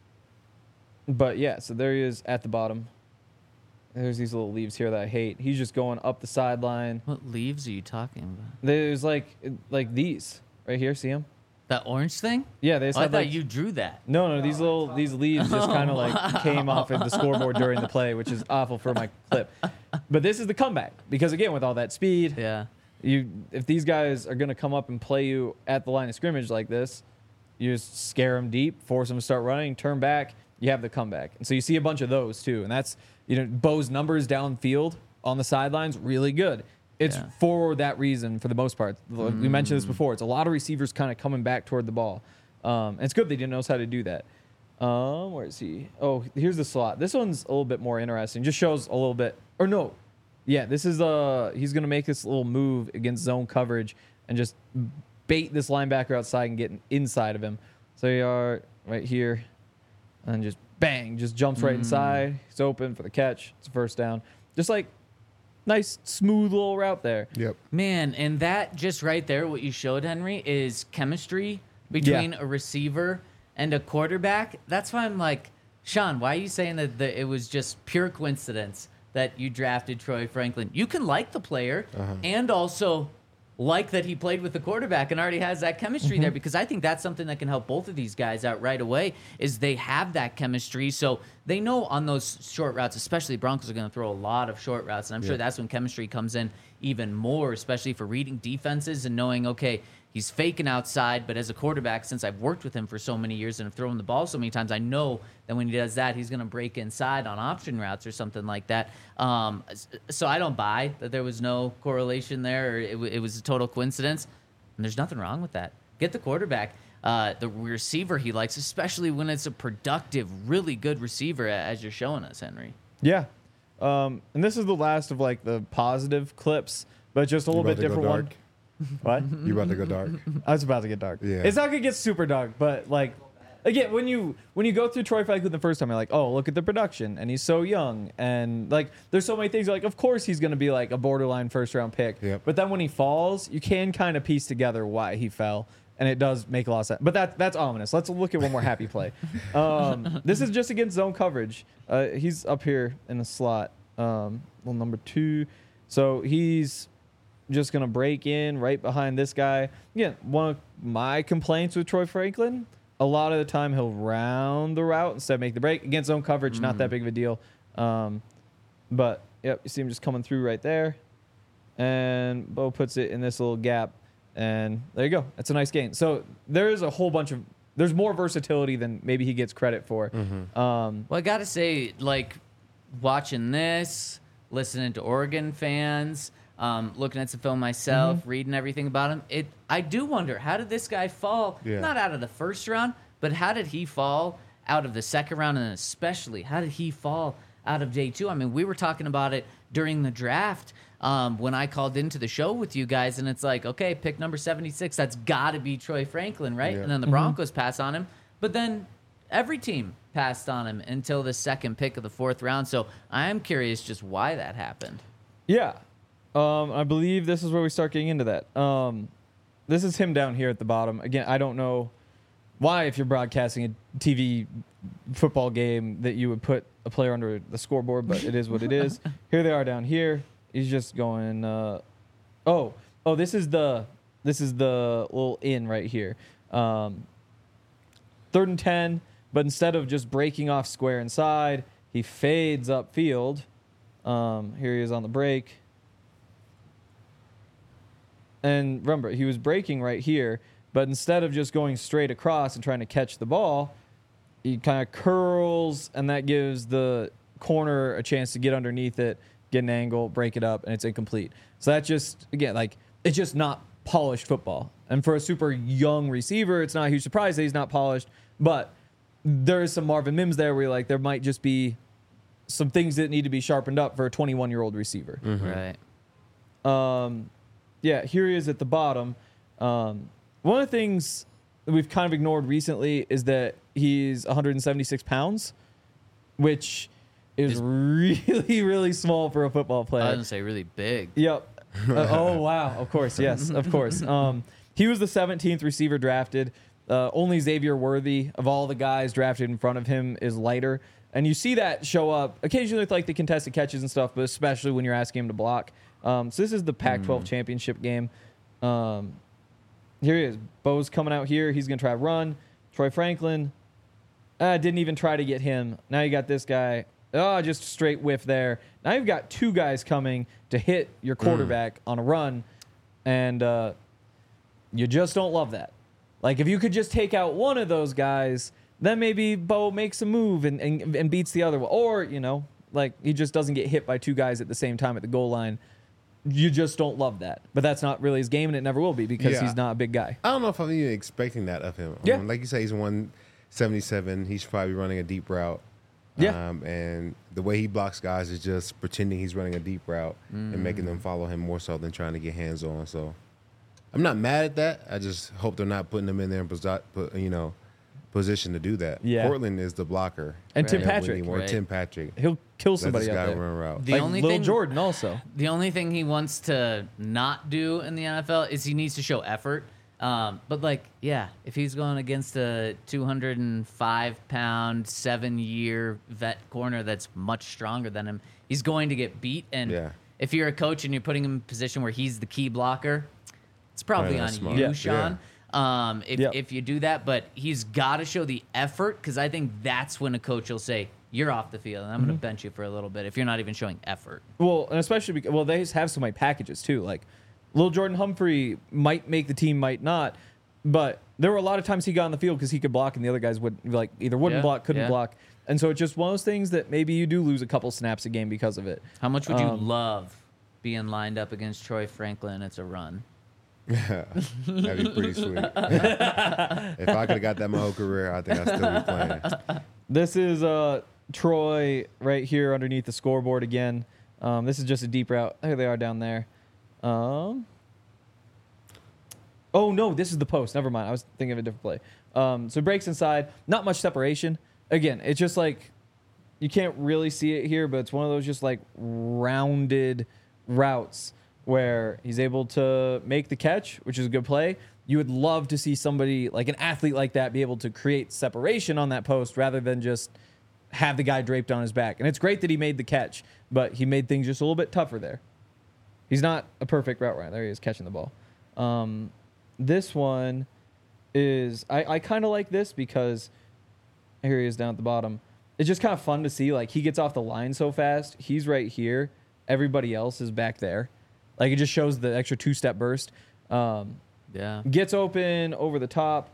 [SPEAKER 3] but yeah, so there he is at the bottom. There's these little leaves here that I hate. He's just going up the sideline.
[SPEAKER 1] What leaves are you talking about?
[SPEAKER 3] There's like like these right here. See them?
[SPEAKER 1] That orange thing?
[SPEAKER 3] Yeah, they just
[SPEAKER 1] Oh, I
[SPEAKER 3] had
[SPEAKER 1] thought
[SPEAKER 3] like
[SPEAKER 1] you drew that.
[SPEAKER 3] no, no. These little these leaves just kind of like came off of the scoreboard during the play, which is awful for my clip. But this is the comeback because again, with all that speed,
[SPEAKER 1] Yeah.
[SPEAKER 3] you if these guys are gonna come up and play you at the line of scrimmage like this, you just scare them deep, force them to start running, turn back. You have the comeback, and so you see a bunch of those too, and that's you know Bo's numbers downfield on the sidelines really good. It's
[SPEAKER 1] Yeah.
[SPEAKER 3] for that reason for the most part. We mentioned this before. It's a lot of receivers kind of coming back toward the ball. Um, and it's good they didn't know how to do that. Um, where is he? Oh, here's the slot. This one's a little bit more interesting. Just shows a little bit. Or no, yeah, this is uh he's gonna make this little move against zone coverage and just bait this linebacker outside and get inside of him. So you are right here, and just bang, just jumps right inside. He's open for the catch. It's a first down. Just like nice smooth little route there.
[SPEAKER 2] Yep.
[SPEAKER 1] Man, and that just right there, what you showed, Henry, is chemistry between
[SPEAKER 3] Yeah.
[SPEAKER 1] a receiver and a quarterback. That's why I'm like, Sean, why are you saying that the, it was just pure coincidence that you drafted Troy Franklin? You can like the player and also like that he played with the quarterback and already has that chemistry there, because I think that's something that can help both of these guys out right away is they have that chemistry. So they know on those short routes, especially Broncos are going to throw a lot of short routes. And I'm sure that's when chemistry comes in even more, especially for reading defenses and knowing, okay, he's faking outside, but as a quarterback, since I've worked with him for so many years and have thrown the ball so many times, I know that when he does that, he's going to break inside on option routes or something like that. Um, so I don't buy that there was no correlation there, or it, w- it was a total coincidence. And there's nothing wrong with that. Get the quarterback, uh, the receiver he likes, especially when it's a productive, really good receiver, as you're showing us, Henry.
[SPEAKER 3] Yeah. Um, and this is the last of like the positive clips, but just a
[SPEAKER 2] You
[SPEAKER 3] little
[SPEAKER 2] about
[SPEAKER 3] bit
[SPEAKER 2] to go
[SPEAKER 3] different one.
[SPEAKER 2] dark?
[SPEAKER 3] What?
[SPEAKER 2] You about to go dark?
[SPEAKER 3] I was about to get dark.
[SPEAKER 2] Yeah.
[SPEAKER 3] It's not gonna get super dark, but like again, when you when you go through Troy Franklin the first time, you're like, oh, look at the production, and he's so young, and like there's so many things. Like, of course he's gonna be like a borderline first round pick.
[SPEAKER 2] Yep.
[SPEAKER 3] But then when he falls, you can kind of piece together why he fell, and it does make a lot of sense. But that that's ominous. Let's look at one more happy play. Um, this is just against zone coverage. Uh, he's up here in the slot, um, well, number two. So he's just going to break in right behind this guy. Again, one of my complaints with Troy Franklin, a lot of the time he'll round the route instead of make the break. Against zone coverage, not that big of a deal. Um, but, yep, you see him just coming through right there. And Bo puts it in this little gap. And there you go. That's a nice gain. So there is a whole bunch of, there's more versatility than maybe he gets credit for. Um,
[SPEAKER 1] Well, I got to say, like, watching this, listening to Oregon fans, um, looking at some film myself, reading everything about him, it I do wonder, how did this guy fall?
[SPEAKER 2] Yeah.
[SPEAKER 1] Not out of the first round, but how did he fall out of the second round, and especially, how did he fall out of day two? I mean, we were talking about it during the draft um, when I called into the show with you guys, and it's like, okay, pick number seventy-six, that's got to be Troy Franklin, right?
[SPEAKER 2] Yeah.
[SPEAKER 1] And then the Broncos pass on him, but then every team passed on him until the second pick of the fourth round. So I am curious just why that happened.
[SPEAKER 3] Yeah. Um, I believe this is where we start getting into that. Um, this is him down here at the bottom. Again, I don't know why, if you're broadcasting a T V football game, that you would put a player under the scoreboard, but it is what it is. Here they are down here. He's just going, uh, oh, oh, this is the, this is the little in right here. Um, third and ten, but instead of just breaking off square inside, he fades upfield. Um, here he is on the break. And remember, he was breaking right here, but instead of just going straight across and trying to catch the ball, he kind of curls, and that gives the corner a chance to get underneath it, get an angle, break it up, and it's incomplete. So that just, again, like, it's just not polished football. And for a super young receiver, it's not a huge surprise that he's not polished, but there is some Marvin Mims there where you're like, there might just be some things that need to be sharpened up for a twenty-one-year-old receiver.
[SPEAKER 1] Right.
[SPEAKER 3] Um, yeah, here he is at the bottom. Um, one of the things that we've kind of ignored recently is that he's one hundred seventy-six pounds, which is
[SPEAKER 1] Is-
[SPEAKER 3] really, really small for a football
[SPEAKER 1] I was
[SPEAKER 3] player.
[SPEAKER 1] gonna say really big.
[SPEAKER 3] Yep. Uh, oh, wow. Of course. Yes, of course. Um, he was the seventeenth receiver drafted. Uh, only Xavier Worthy of all the guys drafted in front of him is lighter. And you see that show up occasionally with like the contested catches and stuff, but especially when you're asking him to block. Um, so this is the Pac twelve
[SPEAKER 1] Mm.
[SPEAKER 3] championship game. Um, here he is. Bo's coming out here. He's going to try to run. Troy Franklin uh, didn't even try to get him. Now you got this guy. Oh, just straight whiff there. Now you've got two guys coming to hit your quarterback on a run, and uh, you just don't love that. Like, if you could just take out one of those guys, then maybe Bo makes a move and, and, and beats the other one. Or, you know, like, he just doesn't get hit by two guys at the same time at the goal line. You just don't love that. But that's not really his game, and it never will be because
[SPEAKER 2] Yeah.
[SPEAKER 3] he's not a big guy.
[SPEAKER 2] I don't know if I'm even expecting that of him.
[SPEAKER 3] Yeah.
[SPEAKER 2] Um, like you say, he's one seventy-seven. He's probably running a deep route.
[SPEAKER 3] Yeah.
[SPEAKER 2] Um, and the way he blocks guys is just pretending he's running a deep route and making them follow him more so than trying to get hands on. So I'm not mad at that. I just hope they're not putting him in there in posi- put, you know, position to do that.
[SPEAKER 3] Yeah.
[SPEAKER 2] Portland is the blocker.
[SPEAKER 3] And Tim
[SPEAKER 1] Right.
[SPEAKER 3] Patrick.
[SPEAKER 2] Or
[SPEAKER 1] Right.
[SPEAKER 2] Tim Patrick.
[SPEAKER 3] He'll kill
[SPEAKER 2] Let
[SPEAKER 3] somebody
[SPEAKER 2] this
[SPEAKER 3] out
[SPEAKER 2] guy
[SPEAKER 3] there.
[SPEAKER 2] run a route.
[SPEAKER 1] The
[SPEAKER 3] like
[SPEAKER 1] only
[SPEAKER 3] Lil
[SPEAKER 1] thing-
[SPEAKER 3] Jordan also.
[SPEAKER 1] The only thing he wants to not do in the N F L is he needs to show effort. Um, but like, yeah, if he's going against a two hundred five pound, seven year vet corner that's much stronger than him, he's going to get beat. And
[SPEAKER 2] Yeah.
[SPEAKER 1] if you're a coach and you're putting him in a position where he's the key blocker, it's probably
[SPEAKER 2] Probably
[SPEAKER 1] on
[SPEAKER 2] not smart.
[SPEAKER 1] you,
[SPEAKER 3] Yeah.
[SPEAKER 1] Sean. Um, if,
[SPEAKER 3] Yep.
[SPEAKER 1] if you do that, but he's got to show the effort, because I think that's when a coach will say, you're off the field and I'm
[SPEAKER 3] Mm-hmm.
[SPEAKER 1] going to bench you for a little bit if you're not even showing effort.
[SPEAKER 3] Well, and especially because, well, they have so many packages too. Like, Lil Jordan Humphrey might make the team, might not, but there were a lot of times he got on the field because he could block and the other guys would like either wouldn't
[SPEAKER 1] Yeah,
[SPEAKER 3] block, couldn't
[SPEAKER 1] yeah.
[SPEAKER 3] block, and so it's just one of those things that maybe you do lose a couple snaps a game because of it.
[SPEAKER 1] How much would you
[SPEAKER 3] Um,
[SPEAKER 1] love being lined up against Troy Franklin? It's a run.
[SPEAKER 2] That'd be pretty sweet. If I could have got that my whole career, I think I'd still be playing.
[SPEAKER 3] This is uh Troy right here underneath the scoreboard again. Um, this is just a deep route. There they are down there. Um. Oh no, this is the post. Never mind. I was thinking of a different play. Um, so breaks inside. Not much separation. Again, it's just like you can't really see it here, but it's one of those just like rounded routes where he's able to make the catch, which is a good play. You would love to see somebody like an athlete like that be able to create separation on that post rather than just have the guy draped on his back. And it's great that he made the catch, but he made things just a little bit tougher there. He's not a perfect route runner. There he is catching the ball. Um, this one is, I, I kind of like this because here he is down at the bottom. It's just kind of fun to see. Like, he gets off the line so fast. He's right here. Everybody else is back there. Like, it just shows the extra two-step burst. Um,
[SPEAKER 1] Yeah.
[SPEAKER 3] gets open over the top.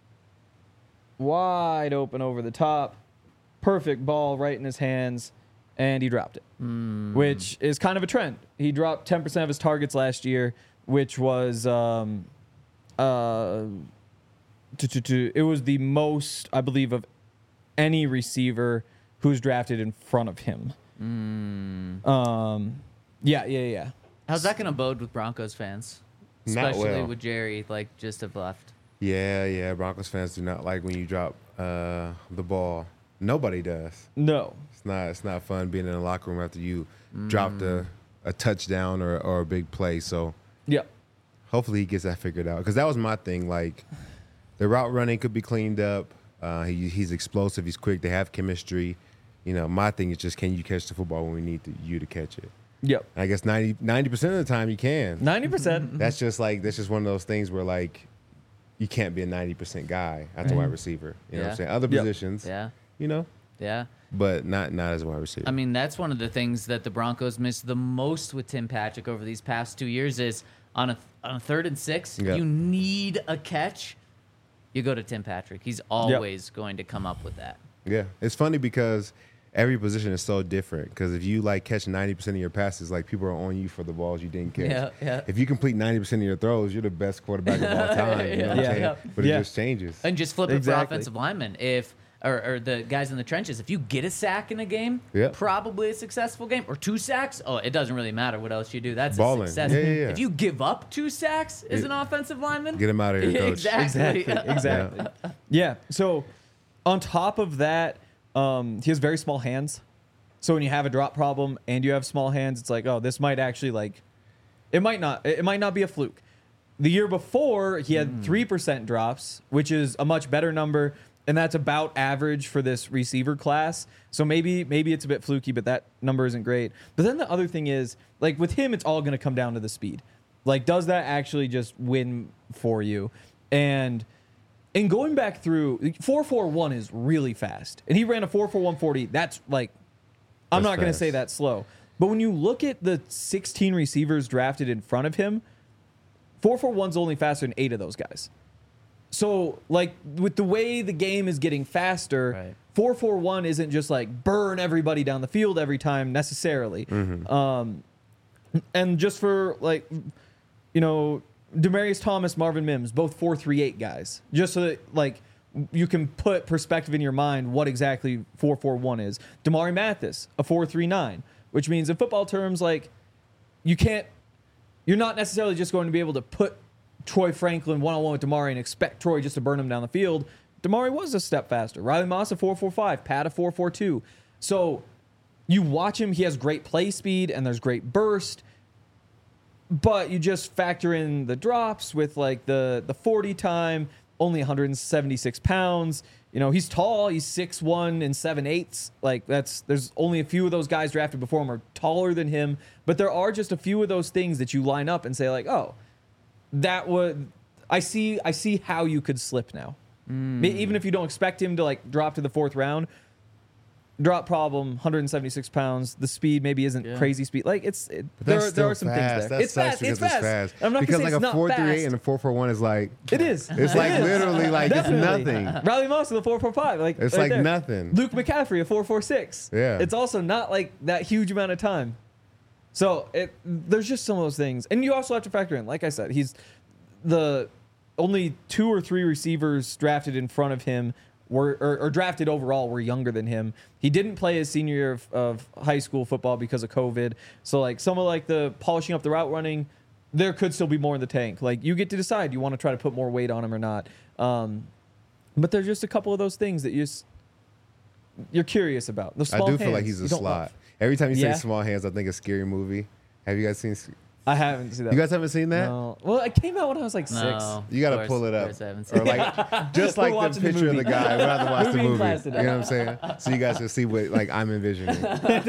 [SPEAKER 3] Wide open over the top. Perfect ball right in his hands. And he dropped it, which is kind of a trend. He dropped ten percent of his targets last year, which was um, uh, to, to, to, it was the most, I believe, of any receiver who's drafted in front of him. Um, yeah, yeah, yeah.
[SPEAKER 1] How's that going to bode with Broncos fans?
[SPEAKER 2] Not
[SPEAKER 1] Especially
[SPEAKER 2] well.
[SPEAKER 1] with Jerry, like, just have left.
[SPEAKER 2] Yeah, yeah. Broncos fans do not like when you drop uh, the ball. Nobody does.
[SPEAKER 3] No.
[SPEAKER 2] It's not. It's not fun being in the locker room after you dropped a, a touchdown or, or a big play. So
[SPEAKER 3] Yeah.
[SPEAKER 2] hopefully he gets that figured out. Because that was my thing. Like, the route running could be cleaned up. Uh, he, he's explosive. He's quick. They have chemistry. You know, my thing is just, can you catch the football when we need to, you to catch it?
[SPEAKER 3] Yep.
[SPEAKER 2] And I guess ninety percent of the time you can.
[SPEAKER 3] ninety percent.
[SPEAKER 2] That's just like, that's just one of those things where, like, you can't be a ninety percent guy as a wide receiver. You know what
[SPEAKER 1] Yeah.
[SPEAKER 2] I'm saying? Other
[SPEAKER 3] Yep.
[SPEAKER 2] positions,
[SPEAKER 1] Yeah.
[SPEAKER 2] you know,
[SPEAKER 1] Yeah.
[SPEAKER 2] but not not as a wide receiver.
[SPEAKER 1] I mean, that's one of the things that the Broncos missed the most with Tim Patrick over these past two years is on a on a third and six,
[SPEAKER 2] Yeah.
[SPEAKER 1] you need a catch. You go to Tim Patrick. He's always going to come up with that.
[SPEAKER 2] Yeah, it's funny because every position is so different. Because if you like catch ninety percent of your passes, like people are on you for the balls you didn't catch.
[SPEAKER 1] Yeah, yeah.
[SPEAKER 2] If you complete ninety percent of your throws, you're the best quarterback of all time. You know what
[SPEAKER 3] Yeah.
[SPEAKER 2] I'm saying?
[SPEAKER 3] Yeah.
[SPEAKER 2] But it
[SPEAKER 3] Yeah.
[SPEAKER 2] just changes.
[SPEAKER 1] And just flip it for
[SPEAKER 3] Exactly.
[SPEAKER 1] offensive linemen. If or, or the guys in the trenches, if you get a sack in a game,
[SPEAKER 2] Yeah.
[SPEAKER 1] probably a successful game. Or two sacks, oh, it doesn't really matter what else you do. That's
[SPEAKER 2] Balling.
[SPEAKER 1] a success.
[SPEAKER 2] Yeah, yeah, yeah.
[SPEAKER 1] If you give up two sacks as
[SPEAKER 2] Yeah.
[SPEAKER 1] an offensive lineman,
[SPEAKER 2] Get him out of here, coach.
[SPEAKER 1] exactly.
[SPEAKER 3] Exactly. Exactly. Yeah. So, on top of that, um, he has very small hands. So when you have a drop problem and you have small hands, it's like, oh, this might actually like, it might not, it might not be a fluke. The year before, he had three percent drops, which is a much better number, and that's about average for this receiver class. So maybe maybe it's a bit fluky, but that number isn't great. But then the other thing is, like with him, it's all going to come down to the speed. Like, does that actually just win for you? And in going back through, four four one is really fast, and he ran a four four one forty. That's like, I'm
[SPEAKER 2] That's
[SPEAKER 3] not going to
[SPEAKER 2] fast.
[SPEAKER 3] say that's slow. But when you look at the sixteen receivers drafted in front of him, four four one's only faster than eight of those guys. So, like, with the way the game is getting faster,
[SPEAKER 1] Right.
[SPEAKER 3] four four one isn't just like burn everybody down the field every time necessarily. Um, and just for, like, you know, Demarius Thomas, Marvin Mims, both four three eight guys. Just so that, like, you can put perspective in your mind what exactly four four one is. Damari Mathis, a four three nine, which means in football terms, like, you can't, you're not necessarily just going to be able to put Troy Franklin one-on-one with Damari and expect Troy just to burn him down the field. Damari was a step faster. Riley Moss a four four five, Pat a four four two. So you watch him, he has great play speed and there's great burst, but you just factor in the drops with like the, the forty time, only one hundred seventy-six pounds. You know, he's tall, he's six one and seven eighths. Like, that's, there's only a few of those guys drafted before him are taller than him, but there are just a few of those things that you line up and say like, oh, that would, I see, I see how you could slip now.
[SPEAKER 1] Mm.
[SPEAKER 3] May- Even if you don't expect him to like drop to the fourth round, drop problem, one hundred seventy-six pounds. The speed maybe isn't
[SPEAKER 1] Yeah.
[SPEAKER 3] crazy speed. Like it's, it,
[SPEAKER 2] But
[SPEAKER 3] there,
[SPEAKER 2] that's
[SPEAKER 3] are, there are
[SPEAKER 2] still
[SPEAKER 3] some
[SPEAKER 2] fast.
[SPEAKER 3] things there.
[SPEAKER 2] That
[SPEAKER 3] It's
[SPEAKER 2] sucks
[SPEAKER 3] fast.
[SPEAKER 2] because
[SPEAKER 3] It's fast.
[SPEAKER 2] fast.
[SPEAKER 3] I'm not
[SPEAKER 2] because
[SPEAKER 3] gonna
[SPEAKER 2] like
[SPEAKER 3] say it's
[SPEAKER 2] a
[SPEAKER 3] not
[SPEAKER 2] four three eight
[SPEAKER 3] fast.
[SPEAKER 2] and a four four one is like
[SPEAKER 3] It is.
[SPEAKER 2] It's like
[SPEAKER 3] It is.
[SPEAKER 2] literally like it's
[SPEAKER 3] Definitely.
[SPEAKER 2] nothing.
[SPEAKER 3] Riley Moss with a four four five. Like
[SPEAKER 2] It's
[SPEAKER 3] right
[SPEAKER 2] like
[SPEAKER 3] there.
[SPEAKER 2] nothing.
[SPEAKER 3] Luke McCaffrey a four four six.
[SPEAKER 2] Yeah.
[SPEAKER 3] It's also not like that huge amount of time. So it there's just some of those things, and you also have to factor in. Like I said, he's the only two or three receivers drafted in front of him were or, or drafted overall were younger than him. He didn't play his senior year of, of high school football because of COVID. So like some of like the polishing up the route running, there could still be more in the tank. Like you get to decide you want to try to put more weight on him or not. Um, but there's just a couple of those things that you just you're curious about. The
[SPEAKER 2] I
[SPEAKER 3] small
[SPEAKER 2] do feel like
[SPEAKER 3] hands,
[SPEAKER 2] he's a
[SPEAKER 3] you don't
[SPEAKER 2] slot.
[SPEAKER 3] love.
[SPEAKER 2] Every time you
[SPEAKER 3] Yeah.
[SPEAKER 2] say small hands, I think of Scary Movie. Have you guys seen?
[SPEAKER 3] I haven't seen that.
[SPEAKER 2] You guys haven't seen that?
[SPEAKER 3] No. Well, it came out when I was like six.
[SPEAKER 1] No,
[SPEAKER 2] You got
[SPEAKER 1] of
[SPEAKER 2] to
[SPEAKER 1] course-
[SPEAKER 2] pull it
[SPEAKER 1] of
[SPEAKER 2] up,
[SPEAKER 1] course I haven't seen
[SPEAKER 2] or like just
[SPEAKER 3] We're
[SPEAKER 2] like the
[SPEAKER 3] watching the
[SPEAKER 2] picture of the
[SPEAKER 3] movie.
[SPEAKER 2] guy. We'll have to watch the
[SPEAKER 3] Movie in
[SPEAKER 2] movie.
[SPEAKER 3] class
[SPEAKER 2] You
[SPEAKER 3] today.
[SPEAKER 2] know what I'm saying? So you guys can see what like I'm envisioning.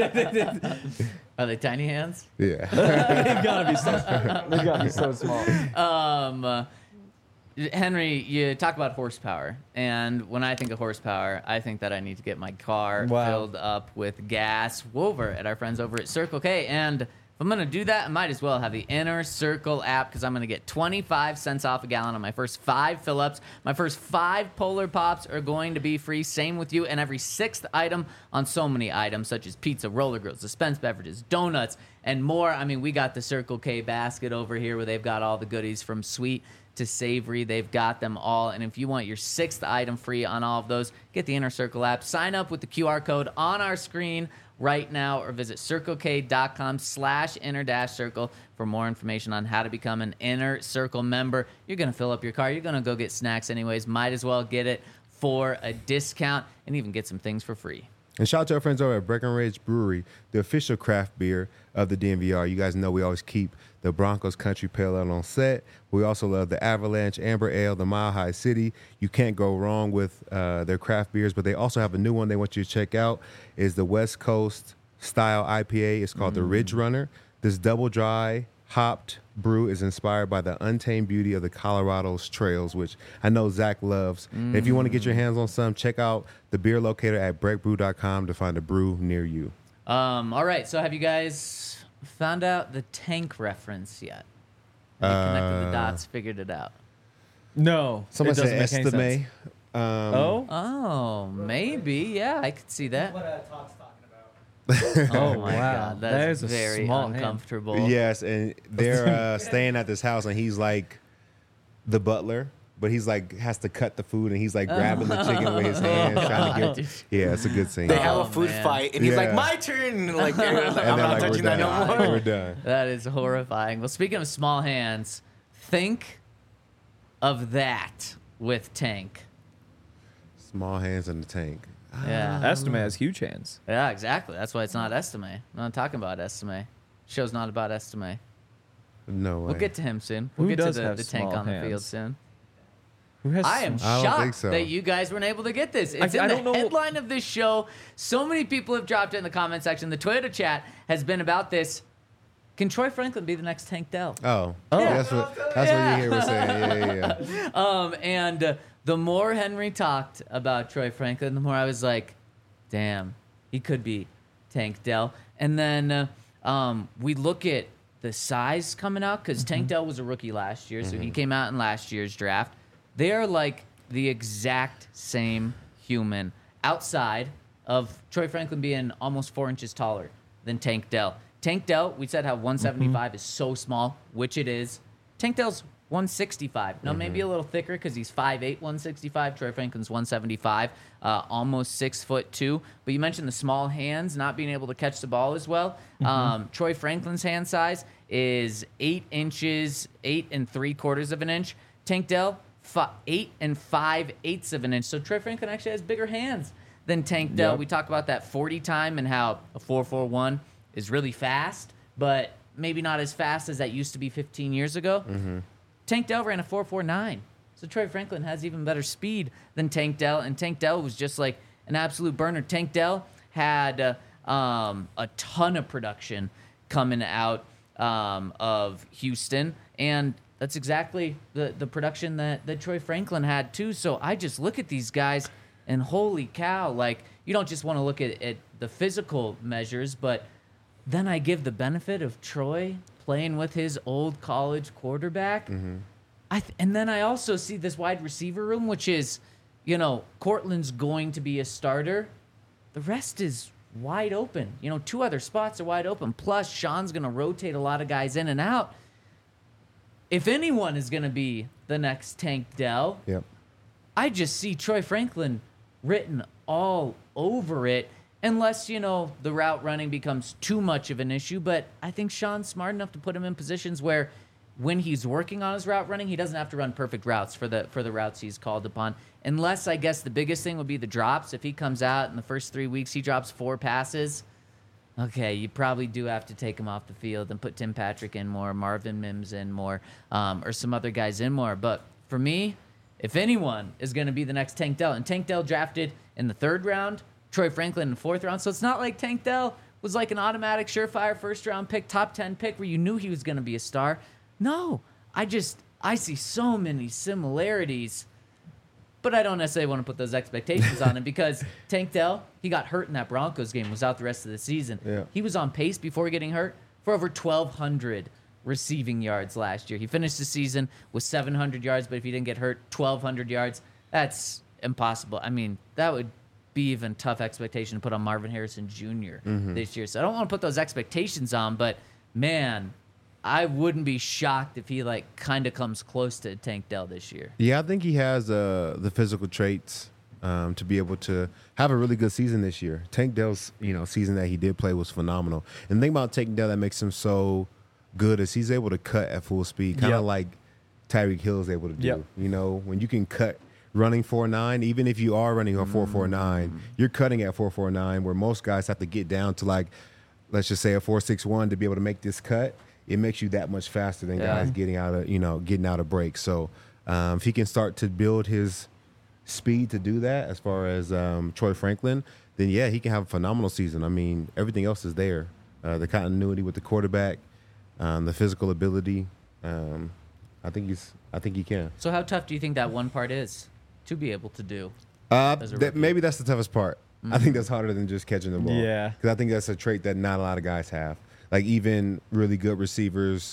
[SPEAKER 1] Are they tiny hands?
[SPEAKER 2] Yeah.
[SPEAKER 3] They've got to be so. They've got to be so small.
[SPEAKER 1] Um, uh, Henry, you talk about horsepower, and when I think of horsepower, I think that I need to get my car
[SPEAKER 3] Wow.
[SPEAKER 1] filled up with gas over at our friends over at Circle K. And if I'm gonna do that, I might as well have the Inner Circle app because I'm gonna get twenty-five cents off a gallon on my first five fill-ups. My first five Polar Pops are going to be free. Same with you, and every sixth item on so many items such as pizza, roller grills, dispensed beverages, donuts, and more. I mean, we got the Circle K basket over here where they've got all the goodies from sweet to savory. They've got them all. And if you want your sixth item free on all of those, get the Inner Circle app. Sign up with the Q R code on our screen right now or visit circlek.com slash inner dash circle for more information on how to become an Inner Circle member. You're going to fill up your car. You're going to go get snacks anyways. Might as well get it for a discount and even get some things for free.
[SPEAKER 2] And shout out to our friends over at Breckenridge Brewery, the official craft beer of the D N V R. You guys know we always keep the Broncos Country Pale Ale on set. We also love the Avalanche Amber Ale, the Mile High City. You can't go wrong with uh, their craft beers, but they also have a new one they want you to check out. Is the West Coast style I P A. It's called the Ridge Runner. This double dry hopped brew is inspired by the untamed beauty of the Colorado's trails, which I know Zach loves. And if you want to get your hands on some, check out the beer locator at break brew dot com to find a brew near you.
[SPEAKER 1] Um, all right, so have you guys found out the tank reference yet? Have you connected the
[SPEAKER 2] Uh,
[SPEAKER 1] dots, figured it out?
[SPEAKER 3] No.
[SPEAKER 2] Someone
[SPEAKER 3] it doesn't
[SPEAKER 2] said
[SPEAKER 3] make any
[SPEAKER 2] Estime.
[SPEAKER 3] sense.
[SPEAKER 2] Um,
[SPEAKER 3] Oh?
[SPEAKER 1] Oh, maybe. Yeah, I could see that.
[SPEAKER 4] What uh, Todd's talking about.
[SPEAKER 1] Oh my
[SPEAKER 3] wow.
[SPEAKER 1] god, that's
[SPEAKER 3] There's a
[SPEAKER 1] very
[SPEAKER 3] small hand.
[SPEAKER 1] uncomfortable.
[SPEAKER 2] Yes, and they're uh, staying at this house, and he's like the butler. but he's like has to cut the food, and he's like grabbing the chicken with his hands, trying to get. Yeah, it's a good scene.
[SPEAKER 5] They have
[SPEAKER 1] Oh,
[SPEAKER 5] a food
[SPEAKER 1] man.
[SPEAKER 5] fight, and he's like,
[SPEAKER 2] Yeah.
[SPEAKER 5] "My turn!" Like, like,
[SPEAKER 2] And
[SPEAKER 5] I'm
[SPEAKER 2] they're
[SPEAKER 5] not
[SPEAKER 2] like,
[SPEAKER 5] touching
[SPEAKER 2] we're
[SPEAKER 5] that no
[SPEAKER 2] done.
[SPEAKER 5] more.
[SPEAKER 2] We're done.
[SPEAKER 1] That is horrifying. Well, speaking of small hands, think of that with Tank.
[SPEAKER 2] Small hands in the tank.
[SPEAKER 1] Yeah.
[SPEAKER 3] Estime has huge hands.
[SPEAKER 1] Yeah, exactly. That's why it's not Estime. I'm not talking about Estime. Show's not about Estime.
[SPEAKER 2] No way.
[SPEAKER 1] We'll get to him soon. We'll
[SPEAKER 3] Who
[SPEAKER 1] get
[SPEAKER 3] does
[SPEAKER 1] to the,
[SPEAKER 3] have
[SPEAKER 1] the Tank
[SPEAKER 3] small
[SPEAKER 1] on the field
[SPEAKER 3] hands?
[SPEAKER 1] soon.
[SPEAKER 3] Who has
[SPEAKER 1] I am
[SPEAKER 3] some-
[SPEAKER 2] I don't
[SPEAKER 1] shocked
[SPEAKER 2] think so.
[SPEAKER 1] that you guys weren't able to get this. It's
[SPEAKER 3] I-
[SPEAKER 1] in
[SPEAKER 3] I
[SPEAKER 1] the
[SPEAKER 3] don't know-
[SPEAKER 1] headline of this show. So many people have dropped it in the comment section. The Toyota chat has been about this. Can Troy Franklin be the next Tank Dell?
[SPEAKER 2] Oh,
[SPEAKER 3] Oh.
[SPEAKER 2] yeah, that's what that's
[SPEAKER 1] Yeah.
[SPEAKER 2] what you hear was saying. Yeah, yeah, yeah.
[SPEAKER 1] Um, and uh, the more Henry talked about Troy Franklin, the more I was like, damn, he could be Tank Dell. And then uh, um, we look at the size coming out because Tank Dell was a rookie last year, so he came out in last year's draft. They are like the exact same human outside of Troy Franklin being almost four inches taller than Tank Dell. Tank Dell, we said how one seventy-five is so small, which it is. Tank Dell's one sixty-five. Now, maybe a little thicker because he's five eight, one sixty-five. Troy Franklin's one seventy-five, uh, almost six foot two. But you mentioned the small hands, not being able to catch the ball as well. Um, Troy Franklin's hand size is eight inches, eight and three quarters of an inch. Tank Dell, fi- eight and five eighths of an inch. So Troy Franklin actually has bigger hands than Tank Dell.
[SPEAKER 3] Yep.
[SPEAKER 1] We talk about that forty time and how a four four one is really fast, but maybe not as fast as that used to be fifteen years ago. Tank Dell ran a four four nine. So Troy Franklin has even better speed than Tank Dell, and Tank Dell was just like an absolute burner. Tank Dell had uh, um, a ton of production coming out um, of Houston, and that's exactly the, the production that, that Troy Franklin had too. So I just look at these guys, and holy cow, like, you don't just want to look at, at the physical measures, but then I give the benefit of Troy playing with his old college quarterback. I th- and then I also see this wide receiver room, which is, you know, Cortland's going to be a starter. The rest is wide open. You know, two other spots are wide open. Plus, Sean's going to rotate a lot of guys in and out. If anyone is going to be the next Tank Dell,
[SPEAKER 2] Yep.
[SPEAKER 1] I just see Troy Franklin written all over it, unless, you know, the route running becomes too much of an issue. But I think Sean's smart enough to put him in positions where when he's working on his route running, he doesn't have to run perfect routes for the for the routes he's called upon. Unless, I guess, the biggest thing would be the drops. If he comes out in the first three weeks, he drops four passes, okay, you probably do have to take him off the field and put Tim Patrick in more, Marvin Mims in more, um, or some other guys in more. But for me, if anyone is going to be the next Tank Dell, and Tank Dell drafted in the third round, Troy Franklin in the fourth round, so it's not like Tank Dell was like an automatic surefire first round pick, top ten pick where you knew he was going to be a star. No, I just, I see so many similarities, but I don't necessarily want to put those expectations on him because Tank Dell, he got hurt in that Broncos game, was out the rest of the season.
[SPEAKER 2] Yeah.
[SPEAKER 1] He was on pace before getting hurt for over twelve hundred receiving yards last year. He finished the season with seven hundred yards, but if he didn't get hurt, twelve hundred yards. That's impossible. I mean, that would be even tough expectation to put on Marvin Harrison Junior this year. So I don't want to put those expectations on, but man, I wouldn't be shocked if he like kind of comes close to Tank Dell this year.
[SPEAKER 2] Yeah, I think he has uh, the physical traits um, to be able to have a really good season this year. Tank Dell's, you know, season that he did play was phenomenal. And the thing about Tank Dell that makes him so good is he's able to cut at full speed, kind of
[SPEAKER 3] Yep.
[SPEAKER 2] like Tyreek Hill is able to do.
[SPEAKER 3] Yep.
[SPEAKER 2] You know, when you can cut running four nine, even if you are running a four four nine, you're cutting at four four nine, where most guys have to get down to like, let's just say a four six one to be able to make this cut. It makes you that much faster than
[SPEAKER 1] Yeah.
[SPEAKER 2] guys getting out of, you know, getting out of breaks. So um, if he can start to build his speed to do that, as far as um, Troy Franklin, then yeah, he can have a phenomenal season. I mean, everything else is there. Uh, the continuity with the quarterback, um, the physical ability. Um, I think he's. I think he can.
[SPEAKER 1] So how tough do you think that one part is to be able to do?
[SPEAKER 2] Uh,
[SPEAKER 1] As a
[SPEAKER 2] that,
[SPEAKER 1] rookie.
[SPEAKER 2] maybe that's the toughest part. I think that's harder than just catching the ball.
[SPEAKER 3] Yeah.
[SPEAKER 2] because I think that's a trait that not a lot of guys have. Like even really good receivers,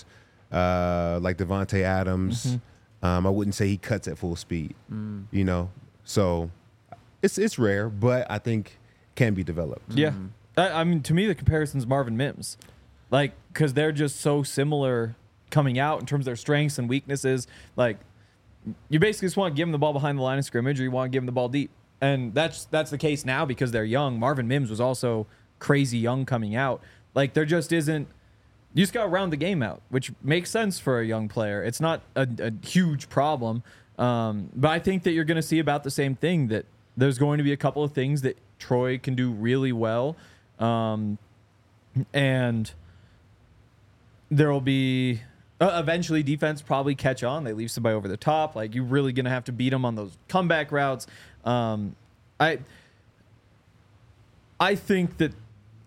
[SPEAKER 2] uh, like Devontae Adams. Um, I wouldn't say he cuts at full speed. You know, so it's it's rare, but I think can be developed.
[SPEAKER 3] Yeah. I, I mean, to me, the comparison's Marvin Mims. Like, because they're just so similar coming out in terms of their strengths and weaknesses. Like, you basically just want to give him the ball behind the line of scrimmage, or you want to give him the ball deep. And that's that's the case now because they're young. Marvin Mims was also crazy young coming out. Like, there just isn't. You just got to round the game out, which makes sense for a young player. It's not a, a huge problem. Um, but I think that you're going to see about the same thing, that there's going to be a couple of things that Troy can do really well. Um, and there will be uh, eventually defense probably catch on. They leave somebody over the top. Like, you're really going to have to beat them on those comeback routes. Um, I I think that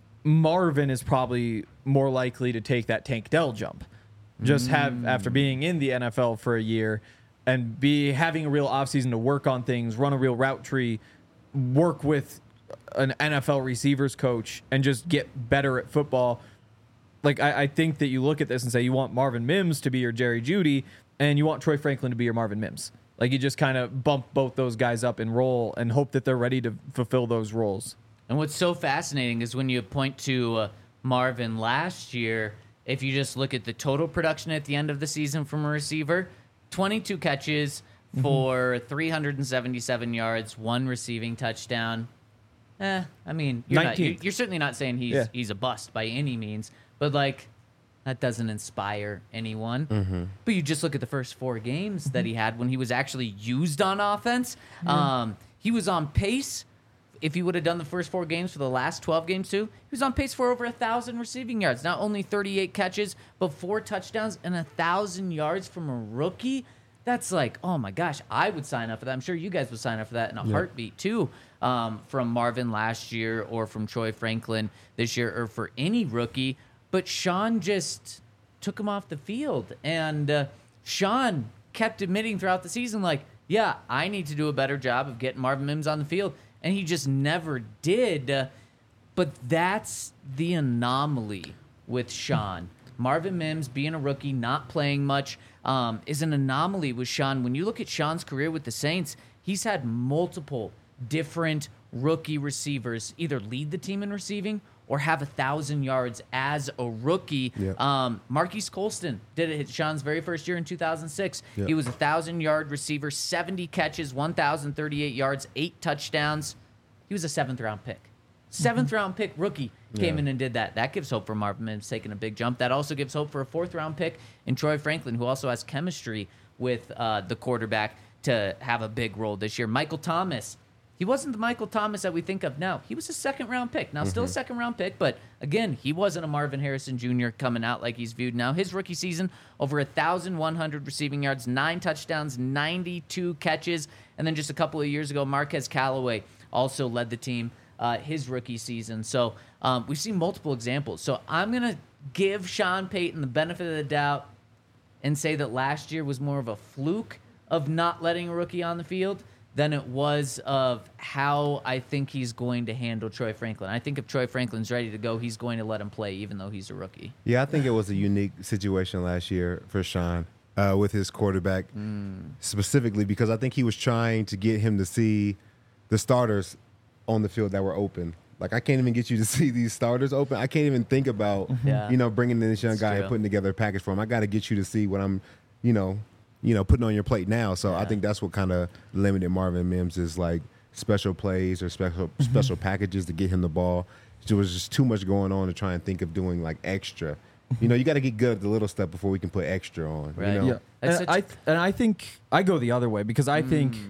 [SPEAKER 3] Marvin is probably more likely to take that Tank Dell jump. Just have after being in the N F L for a year and be having a real offseason to work on things, run a real route tree, work with an N F L receivers coach, and just get better at football. Like, I, I think that you look at this and say you want Marvin Mims to be your Jerry Jeudy, and you want Troy Franklin to be your Marvin Mims. Like, you just kind of bump both those guys up and roll and hope that they're ready to fulfill those roles.
[SPEAKER 1] And what's so fascinating is when you point to uh, Marvin last year, if you just look at the total production at the end of the season from a receiver, twenty-two catches for mm-hmm. three hundred seventy-seven yards, one receiving touchdown. Eh, I mean, you're, not, you're, you're certainly not saying he's yeah. he's a bust by any means, but like, that doesn't inspire anyone. Mm-hmm. But you just look at the first four games that he had when he was actually used on offense. Mm-hmm. Um, he was on pace. If he would have done the first four games for the last twelve games too, he was on pace for over one thousand receiving yards. Not only thirty-eight catches, but four touchdowns and one thousand yards from a rookie. That's like, oh my gosh, I would sign up for that. I'm sure you guys would sign up for that in a yeah. heartbeat too, um, from Marvin last year or from Troy Franklin this year or for any rookie. But Sean just took him off the field. And uh, Sean kept admitting throughout the season, like, yeah, I need to do a better job of getting Marvin Mims on the field. And he just never did. Uh, but that's the anomaly with Sean. Marvin Mims, being a rookie, not playing much, um, is an anomaly with Sean. When you look at Sean's career with the Saints, he's had multiple different rookie receivers either lead the team in receiving or have a thousand yards as a rookie. Yep. Um, Marquise Colston did it Sean's very first year in two thousand six. Yep. He was a thousand yard receiver, seventy catches, one thousand thirty-eight yards, eight touchdowns. He was a seventh round pick. Seventh mm-hmm. round pick rookie came yeah. in and did that. That gives hope for Marvin Mims taking a big jump. That also gives hope for a fourth round pick in Troy Franklin, who also has chemistry with uh, the quarterback to have a big role this year. Michael Thomas. He wasn't the Michael Thomas that we think of now. He was a second-round pick. Now, mm-hmm. still a second-round pick, but, again, he wasn't a Marvin Harrison Junior coming out like he's viewed now. His rookie season, over one thousand one hundred receiving yards, nine touchdowns, ninety-two catches. And then just a couple of years ago, Marquez Callaway also led the team uh, his rookie season. So um, we've seen multiple examples. So I'm going to give Sean Payton the benefit of the doubt and say that last year was more of a fluke of not letting a rookie on the field than it was of how I think he's going to handle Troy Franklin. I think if Troy Franklin's ready to go, he's going to let him play even though he's a rookie.
[SPEAKER 2] Yeah, I think it was a unique situation last year for Sean uh, with his quarterback mm. specifically because I think he was trying to get him to see the starters on the field that were open. Like, I can't even get you to see these starters open. I can't even think about, yeah. you know, bringing in this young That's guy true. and putting together a package for him. I got to get you to see what I'm, you know, you know, putting on your plate now. So yeah. I think that's what kind of limited Marvin Mims is, like special plays or special mm-hmm. special packages to get him the ball. There was just too much going on to try and think of doing like extra. You know, you got to get good at the little stuff before we can put extra on.
[SPEAKER 1] Right.
[SPEAKER 2] You know?
[SPEAKER 3] Yeah. And I, and I think I go the other way because I mm. think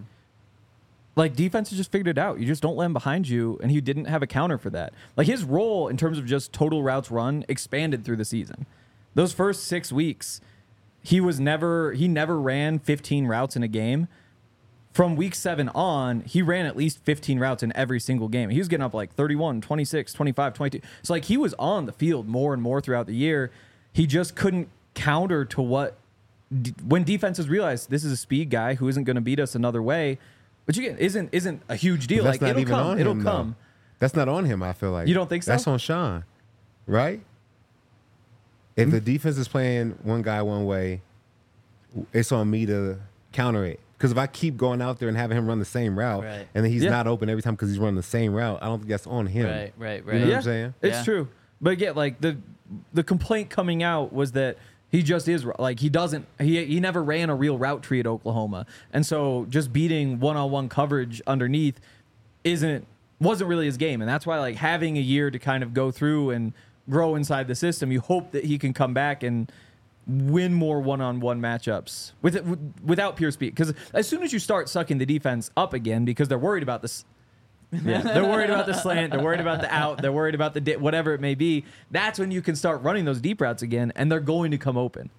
[SPEAKER 3] like defenses just figured it out. You just don't let him behind you, and he didn't have a counter for that. Like his role in terms of just total routes run expanded through the season. Those first six weeks, he was never he never ran fifteen routes in a game. From week seven on, he ran at least fifteen routes in every single game. He was getting up like thirty-one, twenty-six, twenty-five, twenty-two. So like he was on the field more and more throughout the year. He just couldn't counter to what d- when defenses realized this is a speed guy who isn't going to beat us another way, which again isn't isn't a huge deal.
[SPEAKER 2] That's
[SPEAKER 3] like
[SPEAKER 2] not
[SPEAKER 3] it'll
[SPEAKER 2] even
[SPEAKER 3] come,
[SPEAKER 2] on
[SPEAKER 3] it'll
[SPEAKER 2] him,
[SPEAKER 3] come.
[SPEAKER 2] Though. That's not on him, I feel like.
[SPEAKER 3] You don't think so?
[SPEAKER 2] That's on Sean. Right? If mm-hmm. the defense is playing one guy one way, it's on me to counter it. Because if I keep going out there and having him run the same route,
[SPEAKER 1] right.
[SPEAKER 2] and then he's
[SPEAKER 3] yeah.
[SPEAKER 2] not open every time because he's running the same route, I don't think that's on him.
[SPEAKER 1] Right, right, right.
[SPEAKER 2] You know
[SPEAKER 3] yeah,
[SPEAKER 2] what I'm saying?
[SPEAKER 3] It's
[SPEAKER 1] yeah.
[SPEAKER 3] true. But again, like the the complaint coming out was that He just is like he doesn't he he never ran a real route tree at Oklahoma. And so just beating one-on-one coverage underneath isn't wasn't really his game. And that's why like having a year to kind of go through and grow inside the system, you hope that he can come back and win more one-on-one matchups with it, without pure speed. Because as soon as you start sucking the defense up again, because they're worried about this, yeah, they're worried about the slant, they're worried about the out, they're worried about the di- whatever it may be. That's when you can start running those deep routes again, and they're going to come open.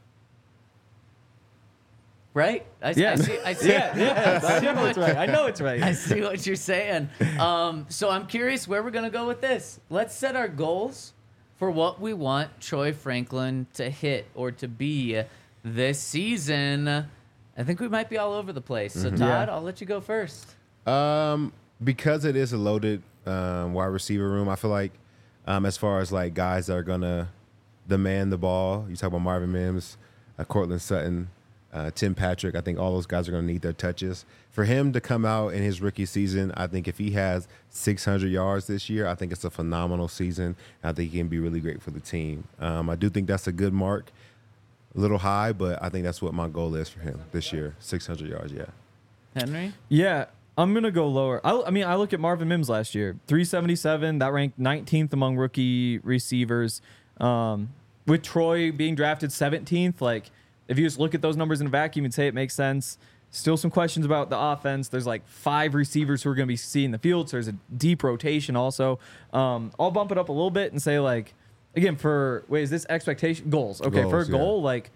[SPEAKER 1] Right? I,
[SPEAKER 3] Yeah.
[SPEAKER 1] I see. I see.
[SPEAKER 3] Yeah, yeah, I know it's right. I know it's right.
[SPEAKER 1] I see what you're saying. Um, so I'm curious where we're gonna go with this. Let's set our goals for what we want Troy Franklin to hit or to be this season. I think we might be all over the place. So Todd,
[SPEAKER 3] Yeah.
[SPEAKER 1] I'll let you go first.
[SPEAKER 2] Um, because it is a loaded um, wide receiver room, I feel like um, as far as like guys that are gonna demand the ball, you talk about Marvin Mims, uh, Cortland Sutton, uh, Tim Patrick. I think all those guys are gonna need their touches. For him to come out in his rookie season, I think if he has six hundred yards this year, I think it's a phenomenal season. I think he can be really great for the team. Um, I do think that's a good mark, a little high, but I think that's what my goal is for him this year, six hundred yards. Yeah.
[SPEAKER 1] Henry?
[SPEAKER 3] Yeah, I'm gonna go lower. I, I mean, I look at Marvin Mims last year, three seventy-seven. That ranked nineteenth among rookie receivers. Um, with Troy being drafted seventeenth, like if you just look at those numbers in a vacuum and say it makes sense. Still some questions about the offense. There's like five receivers who are going to be seeing the field, so there's a deep rotation also. Um, I'll bump it up a little bit and say like, again, for wait, is this expectation goals? Okay,
[SPEAKER 2] Goals,
[SPEAKER 3] for a
[SPEAKER 2] yeah.
[SPEAKER 3] goal, like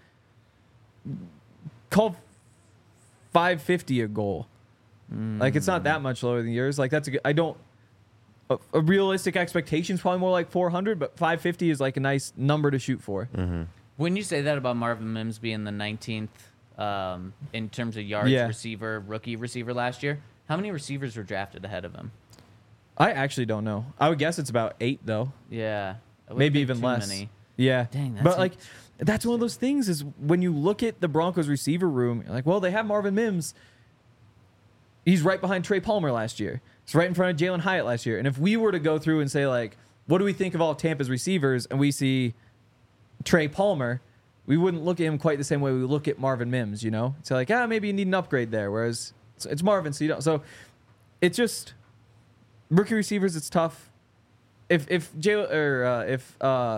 [SPEAKER 3] call five fifty a goal. Like it's not that much lower than yours. Like that's a good. I don't. A, a realistic expectation is probably more like four hundred, but five fifty is like a nice number to shoot for.
[SPEAKER 2] Mm-hmm.
[SPEAKER 1] When you say that about Marvin Mims being the nineteenth um, in terms of yards
[SPEAKER 3] Yeah.
[SPEAKER 1] receiver, rookie receiver last year, how many receivers were drafted ahead of him?
[SPEAKER 3] I actually don't know. I would guess it's about eight though.
[SPEAKER 1] Yeah. it wouldn't
[SPEAKER 3] Maybe
[SPEAKER 1] be
[SPEAKER 3] even
[SPEAKER 1] too
[SPEAKER 3] less.
[SPEAKER 1] many.
[SPEAKER 3] Yeah.
[SPEAKER 1] Dang, that's
[SPEAKER 3] but
[SPEAKER 1] a-
[SPEAKER 3] like that's one of those things is when you look at the Broncos receiver room, you're like, well, they have Marvin Mims. He's right behind Trey Palmer last year. He's right in front of Jalen Hyatt last year. And if we were to go through and say like, what do we think of all of Tampa's receivers, and we see Trey Palmer, we wouldn't look at him quite the same way we look at Marvin Mims, you know? It's like, ah, maybe you need an upgrade there. Whereas it's, it's Marvin, so you don't. So it's just rookie receivers. It's tough. If if Jay or uh, if uh,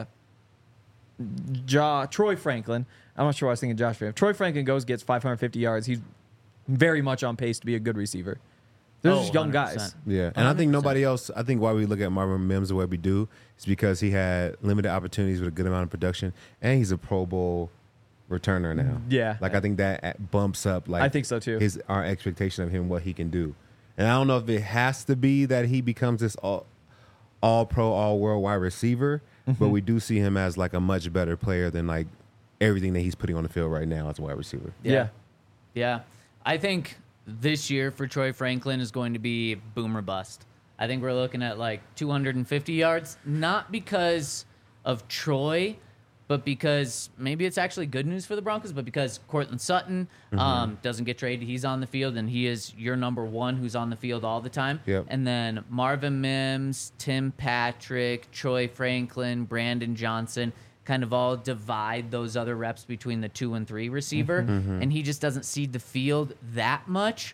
[SPEAKER 3] Ja, Troy Franklin, I'm not sure why I was thinking Josh. If Troy Franklin goes gets five hundred fifty yards, he's very much on pace to be a good receiver. They're
[SPEAKER 1] Oh,
[SPEAKER 3] just young
[SPEAKER 1] one hundred
[SPEAKER 3] guys.
[SPEAKER 1] percent.
[SPEAKER 2] Yeah, and I
[SPEAKER 1] one hundred
[SPEAKER 2] think
[SPEAKER 1] percent.
[SPEAKER 2] nobody else. I think why we look at Marvin Mims the way we do is because he had limited opportunities with a good amount of production, and he's a Pro Bowl returner now.
[SPEAKER 3] Yeah.
[SPEAKER 2] like I think that at- bumps up. Like
[SPEAKER 3] I think so, too.
[SPEAKER 2] His our expectation of him, what he can do, and I don't know if it has to be that he becomes this all all pro, all world wide receiver,
[SPEAKER 3] Mm-hmm.
[SPEAKER 2] but we do see him as like a much better player than like everything that he's putting on the field right now as a wide receiver.
[SPEAKER 1] Yeah.
[SPEAKER 3] Yeah.
[SPEAKER 1] Yeah. I think this year for Troy Franklin is going to be boom or bust. I think we're looking at like two hundred fifty yards, not because of Troy, but because maybe it's actually good news for the Broncos, but because Cortland Sutton um, doesn't get traded. He's on the field, and he is your number one who's on the field all the time.
[SPEAKER 2] Yep.
[SPEAKER 1] And then Marvin Mims, Tim Patrick, Troy Franklin, Brandon Johnson kind of all divide those other reps between the two and three receiver, and he just doesn't see the field that much,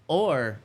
[SPEAKER 1] or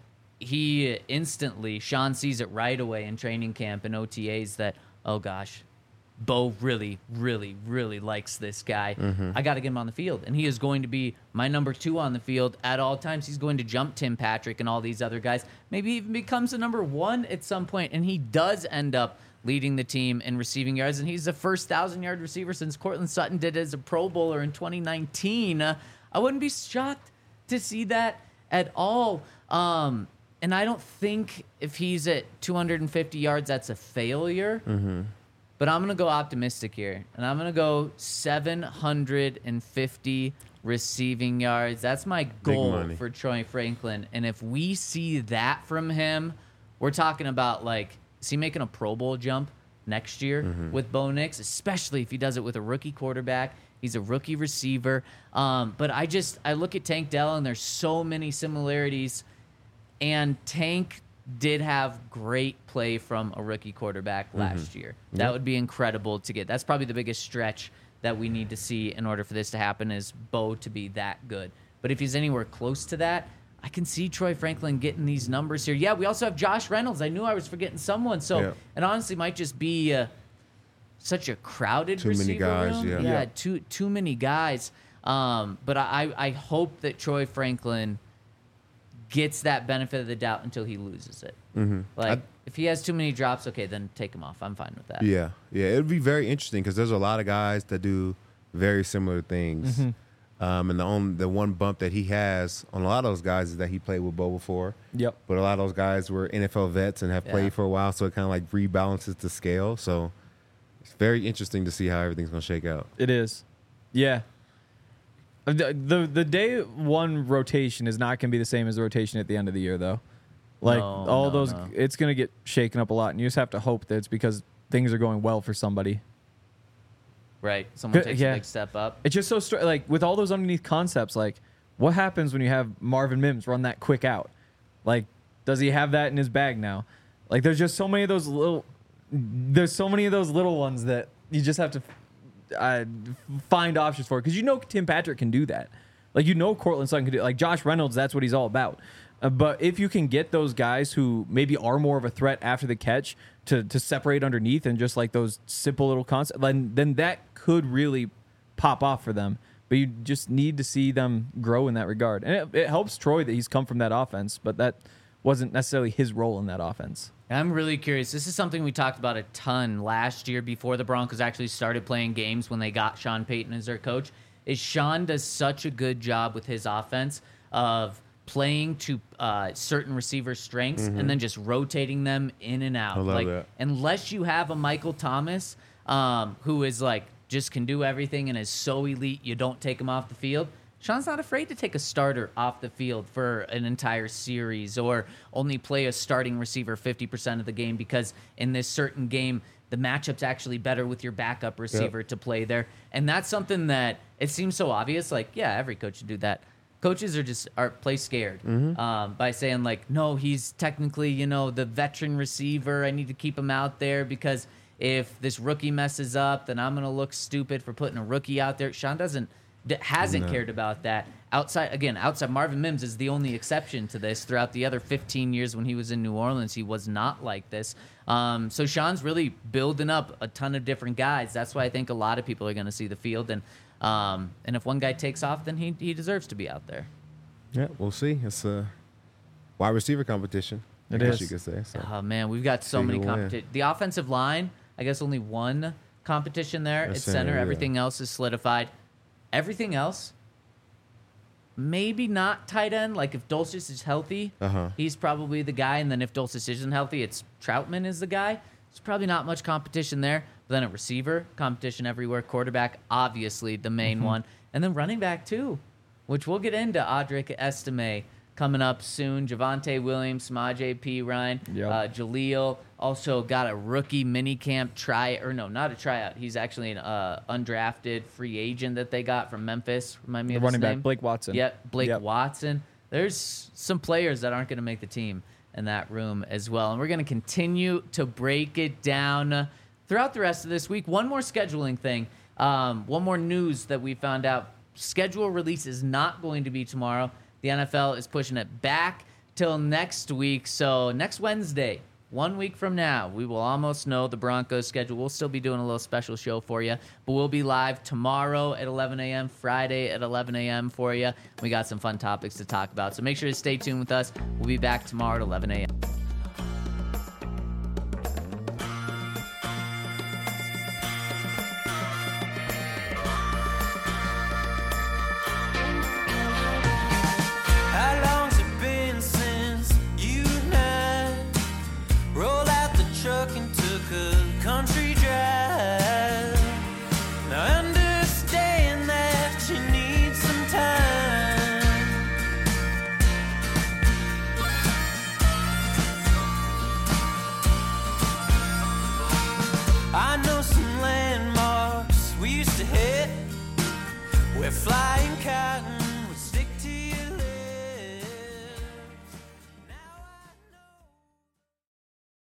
[SPEAKER 1] he instantly, Sean sees it right away in training camp and O T As that, oh gosh, Bo really, really, really likes this guy. I got to get him on the field. And he is going to be my number two on the field at all times. He's going to jump Tim Patrick and all these other guys. Maybe even becomes the number one at some point, and he does end up leading the team in receiving yards. And he's the first thousand-yard receiver since Cortland Sutton did it as a Pro Bowler in twenty nineteen. Uh, I wouldn't be shocked to see that at all. Um, and I don't think if he's at two hundred fifty yards, that's a failure. But I'm going to go optimistic here. And I'm going to go seven hundred fifty receiving yards. That's my goal
[SPEAKER 2] money.
[SPEAKER 1] for Troy Franklin. And if we see that from him, we're talking about, like, is he making a Pro Bowl jump next year with Bo Nix, especially if he does it with a rookie quarterback? He's a rookie receiver. Um, but I just, I look at Tank Dell, and there's so many similarities. And Tank did have great play from a rookie quarterback last year. That would be incredible to get. That's probably the biggest stretch that we need to see in order for this to happen is Bo to be that good. But if he's anywhere close to that, I can see Troy Franklin getting these numbers here. Yeah, we also have Josh Reynolds. I knew I was forgetting someone. So
[SPEAKER 2] Yeah.
[SPEAKER 1] it honestly might just be uh, such a crowded
[SPEAKER 2] Too many
[SPEAKER 1] receiver
[SPEAKER 2] guys,
[SPEAKER 1] room.
[SPEAKER 2] yeah.
[SPEAKER 1] yeah,
[SPEAKER 3] Yeah.
[SPEAKER 1] too too many guys. Um, but I, I hope that Troy Franklin gets that benefit of the doubt until he loses it. Mm-hmm. Like,
[SPEAKER 2] I-
[SPEAKER 1] if he has too many drops, okay, then take him off. I'm fine with that.
[SPEAKER 2] Yeah, yeah, it'd be very interesting because there's a lot of guys that do very similar things.
[SPEAKER 3] Mm-hmm.
[SPEAKER 2] Um, and the only the one bump that he has on a lot of those guys is that he played with Bo before.
[SPEAKER 3] Yep.
[SPEAKER 2] But a lot of those guys were N F L vets and have
[SPEAKER 1] Yeah.
[SPEAKER 2] played for a while, so it kind of like rebalances the scale. So it's very interesting to see how everything's gonna shake out.
[SPEAKER 3] It is. Yeah. The, the the day one rotation is not going to be the same as the rotation at the end of the year, though. Like,
[SPEAKER 1] No,
[SPEAKER 3] all
[SPEAKER 1] no,
[SPEAKER 3] those,
[SPEAKER 1] no.
[SPEAKER 3] it's going to get shaken up a lot, and you just have to hope that it's because things are going well for somebody.
[SPEAKER 1] Right. Someone
[SPEAKER 3] Good-
[SPEAKER 1] takes
[SPEAKER 3] yeah.
[SPEAKER 1] a big step up.
[SPEAKER 3] It's just so str- like with all those underneath concepts, like what happens when you have Marvin Mims run that quick out? Like, does he have that in his bag now? Like, there's just so many of those little, there's so many of those little ones that you just have to uh, find options for because you know Tim Patrick can do that. Like, you know Cortland Sutton can do it. Like Josh Reynolds, that's what he's all about. Uh, but if you can get those guys who maybe are more of a threat after the catch to to separate underneath and just like those simple little concepts, then then that could really pop off for them. But you just need to see them grow in that regard. And it, it helps Troy that he's come from that offense, but that wasn't necessarily his role in that offense.
[SPEAKER 1] I'm really curious. This is something we talked about a ton last year before the Broncos actually started playing games when they got Sean Payton as their coach. Is Sean does such a good job with his offense of playing to uh, certain receiver strengths and then just rotating them in and out.
[SPEAKER 2] I love
[SPEAKER 1] like
[SPEAKER 2] that.
[SPEAKER 1] unless you have a Michael Thomas um, who is like just can do everything and is so elite, you don't take him off the field. Sean's not afraid to take a starter off the field for an entire series or only play a starting receiver fifty percent of the game because in this certain game, the matchup's actually better with your backup receiver to play there. And that's something that it seems so obvious. Like, yeah, every coach should do that. Coaches are just are play scared um, by saying like, no, he's technically, you know, the veteran receiver. I need to keep him out there because if this rookie messes up, then I'm going to look stupid for putting a rookie out there. Sean doesn't d- hasn't
[SPEAKER 2] No.
[SPEAKER 1] cared about that. Outside again, outside Marvin Mims is the only exception to this. Throughout the other fifteen years when he was in New Orleans, he was not like this. Um, so Sean's really building up a ton of different guys. That's why I think a lot of people are going to see the field and. Um, and if one guy takes off, then he he deserves to be out there.
[SPEAKER 2] Yeah, we'll see. It's a wide receiver competition. I
[SPEAKER 3] It
[SPEAKER 2] guess
[SPEAKER 3] is.
[SPEAKER 2] you could say. So.
[SPEAKER 1] Oh man, we've got so
[SPEAKER 2] See
[SPEAKER 1] many
[SPEAKER 2] who will win.
[SPEAKER 1] competition. The offensive line, I guess only one competition there.
[SPEAKER 2] At
[SPEAKER 1] It's
[SPEAKER 2] center,
[SPEAKER 1] center.
[SPEAKER 2] yeah.
[SPEAKER 1] Everything else is solidified. Everything else, maybe not tight end. Like if Dulcich is healthy,
[SPEAKER 2] Uh-huh.
[SPEAKER 1] he's probably the guy. And then if Dulcich isn't healthy, it's Troutman is the guy. There's probably not much competition there. But then a receiver, competition everywhere. Quarterback, obviously the main
[SPEAKER 2] Mm-hmm.
[SPEAKER 1] one. And then running back too, which we'll get into Audric Estime coming up soon. Javonte Williams, Samaje P. Ryan,
[SPEAKER 3] Yep.
[SPEAKER 1] uh, Jaleel also got a rookie mini camp try, or no, not a tryout. He's actually an uh, undrafted free agent that they got from Memphis. Remind me
[SPEAKER 3] The
[SPEAKER 1] of
[SPEAKER 3] running
[SPEAKER 1] his
[SPEAKER 3] back,
[SPEAKER 1] name.
[SPEAKER 3] Blake Watson.
[SPEAKER 1] Yep, Blake
[SPEAKER 3] Yep.
[SPEAKER 1] Watson. There's some players that aren't going to make the team in that room as well. And we're going to continue to break it down uh, throughout the rest of this week. One more scheduling thing. Um, one more news that we found out. Schedule release is not going to be tomorrow. The N F L is pushing it back till next week. So next Wednesday, one week from now, we will almost know the Broncos schedule. We'll still be doing a little special show for you, but we'll be live tomorrow at eleven a.m., Friday at eleven a.m. for you. We got some fun topics to talk about. So make sure to stay tuned with us. We'll be back tomorrow at eleven a.m.
[SPEAKER 5] How long's it been since you and I rolled out the truck and took a country drive? Now I understand that you need some time. I know some landmarks we used to hit where flying cars